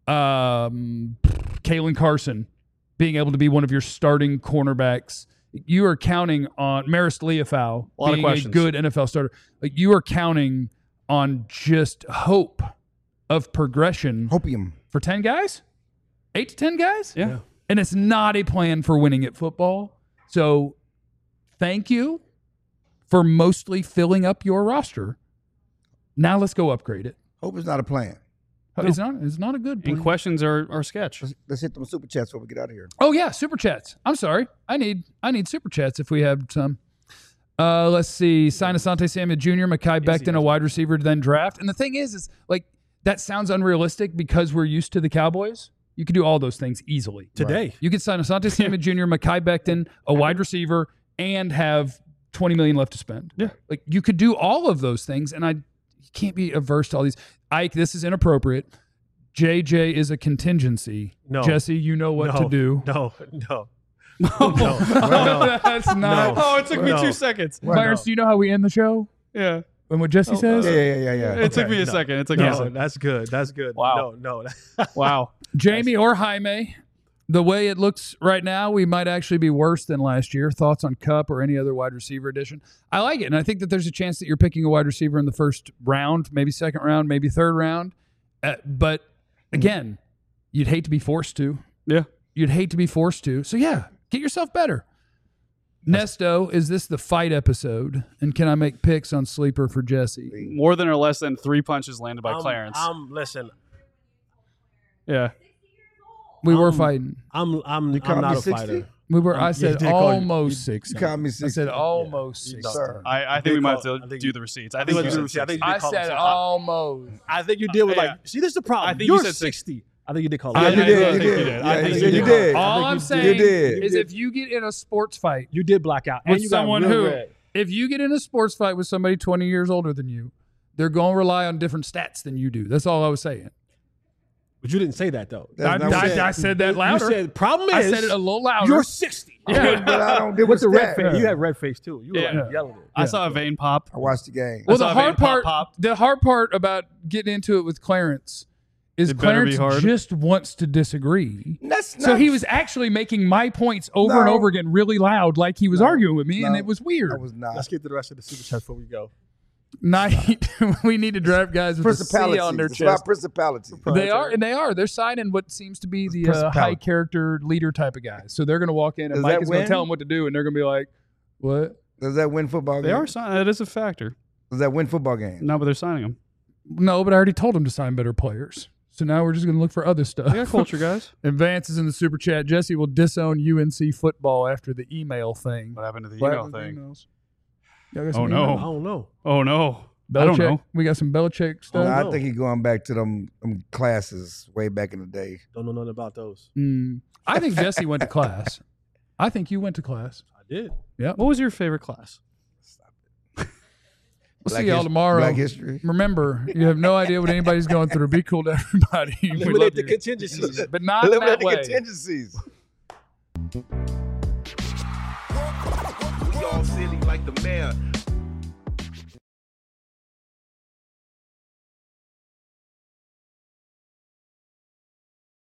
um, Kalen Carson being able to be one of your starting cornerbacks. You are counting on Maris Leofau A lot of being a questions. good N F L starter. Like, you are counting on just hope of progression Hopium. for ten guys, eight to ten guys. Yeah. Yeah. And it's not a plan for winning at football. So thank you for mostly filling up your roster. Now let's go upgrade it. Hope is not a plan. It's not. It's not a good plan. And questions are, are sketch. Let's, let's hit them super chats before we get out of here. Oh yeah, super chats. I'm sorry. I need I need super chats if we have some. Uh, let's see. Sign Asante Samuel Junior, Mekhi Becton, a wide receiver to then draft. And the thing is, is like that sounds unrealistic because we're used to the Cowboys. You could do all those things easily. Today. You could sign Asante Samuel Junior, Mekhi Becton, a wide receiver, and have twenty million left to spend. Yeah. Like you could do all of those things, and I you can't be averse to all these. Ike, this is inappropriate. J J is a contingency. No. Jesse, you know what no, to do. No, no. No, no. that's not. No. Oh, it took me No. two seconds. Myers, do you know how we end the show? Yeah. And what Jesse says? Yeah, yeah, yeah, yeah. It took Okay. me a no. second. It took me a No, second. that's good. That's good. Wow. No, no. Wow. Jamie or Jaime, the way it looks right now, we might actually be worse than last year. Thoughts on Kupp or any other wide receiver addition? I like it, and I think that there's a chance that you're picking a wide receiver in the first round, maybe second round, maybe third round. Uh, but again, you'd hate to be forced to. Yeah. You'd hate to be forced to. So yeah, get yourself better. Nesto, is this the fight episode? And can I make picks on sleeper for Jesse? More than or less than three punches landed by I'm- Clarence. I'm listen. yeah. We were Um, fighting. I'm I'm You called I'm not me a sixty? fighter. We were. I yeah, said he did call you- almost You sixty. called me I sixty. said almost Yeah. sixty. Sir. I, I You think we did might call- have to I think do you- the receipts. I I think think you you said did- I think sixty. you I did call said him sixty. almost. I think you did with Yeah. like. See, this is the problem. I think you You're said sixty. I think you did call I him Yeah, you think- did. I You think did. you did. Yeah, I think you you did. did. All think I'm you saying did. is if you get in a sports fight You did black out. And with you got someone real who, red. if you get in a sports fight with somebody twenty years older than you, they're going to rely on different stats than you do. That's all I was saying. But you didn't say that though. That's I, not what I, said. I said that You louder. said problem is I said it a little louder. you're sixty. Yeah. But I don't give With a the red stat. face, you had red face too. You were Yeah. like yelling it. I saw a vein pop. I watched the game. well, I saw the a vein hard pop, part, pop. the hard part about getting into it with Clarence is It better be Clarence hard. just wants to disagree. That's So not- he was actually making my points over and No. over again really loud, like he was No. arguing with me, and No. it was weird. I was not. Let's get to the rest of the super chat before we go. Night, we need to draft guys with a C Principality. on their It's about chest. principality. They are, and they are. They're signing what seems to be the uh, Principality. high character leader type of guys. So they're going to walk in, and Does Mike that is going to win? tell them what to do, and they're going to be like, "What? Does that win football They games? are signing. That is a factor. Does that win football games? No, but they're signing them. No, but I already told them to sign better players. So now we're just going to look for other stuff." They got culture, guys. Advance is in the super chat. Jesse will disown U N C football after the email thing. What happened to the What email happened to the thing? emails? Y'all got Oh, some no. I emails? don't know. Oh no. I Belichick. don't know. We got some Belichick stuff. No, no. I think he's going back to them, them classes way back in the day. Don't know nothing about those. Mm. I think Jesse went to class. I think you went to class. I did. What was your favorite class? We'll Black see y'all his- tomorrow. Black history. Remember, you have no idea what anybody's going through. Be cool to everybody. We love Eliminate the you. contingencies. But not Eliminate that the way. contingencies. We all silly like the mayor.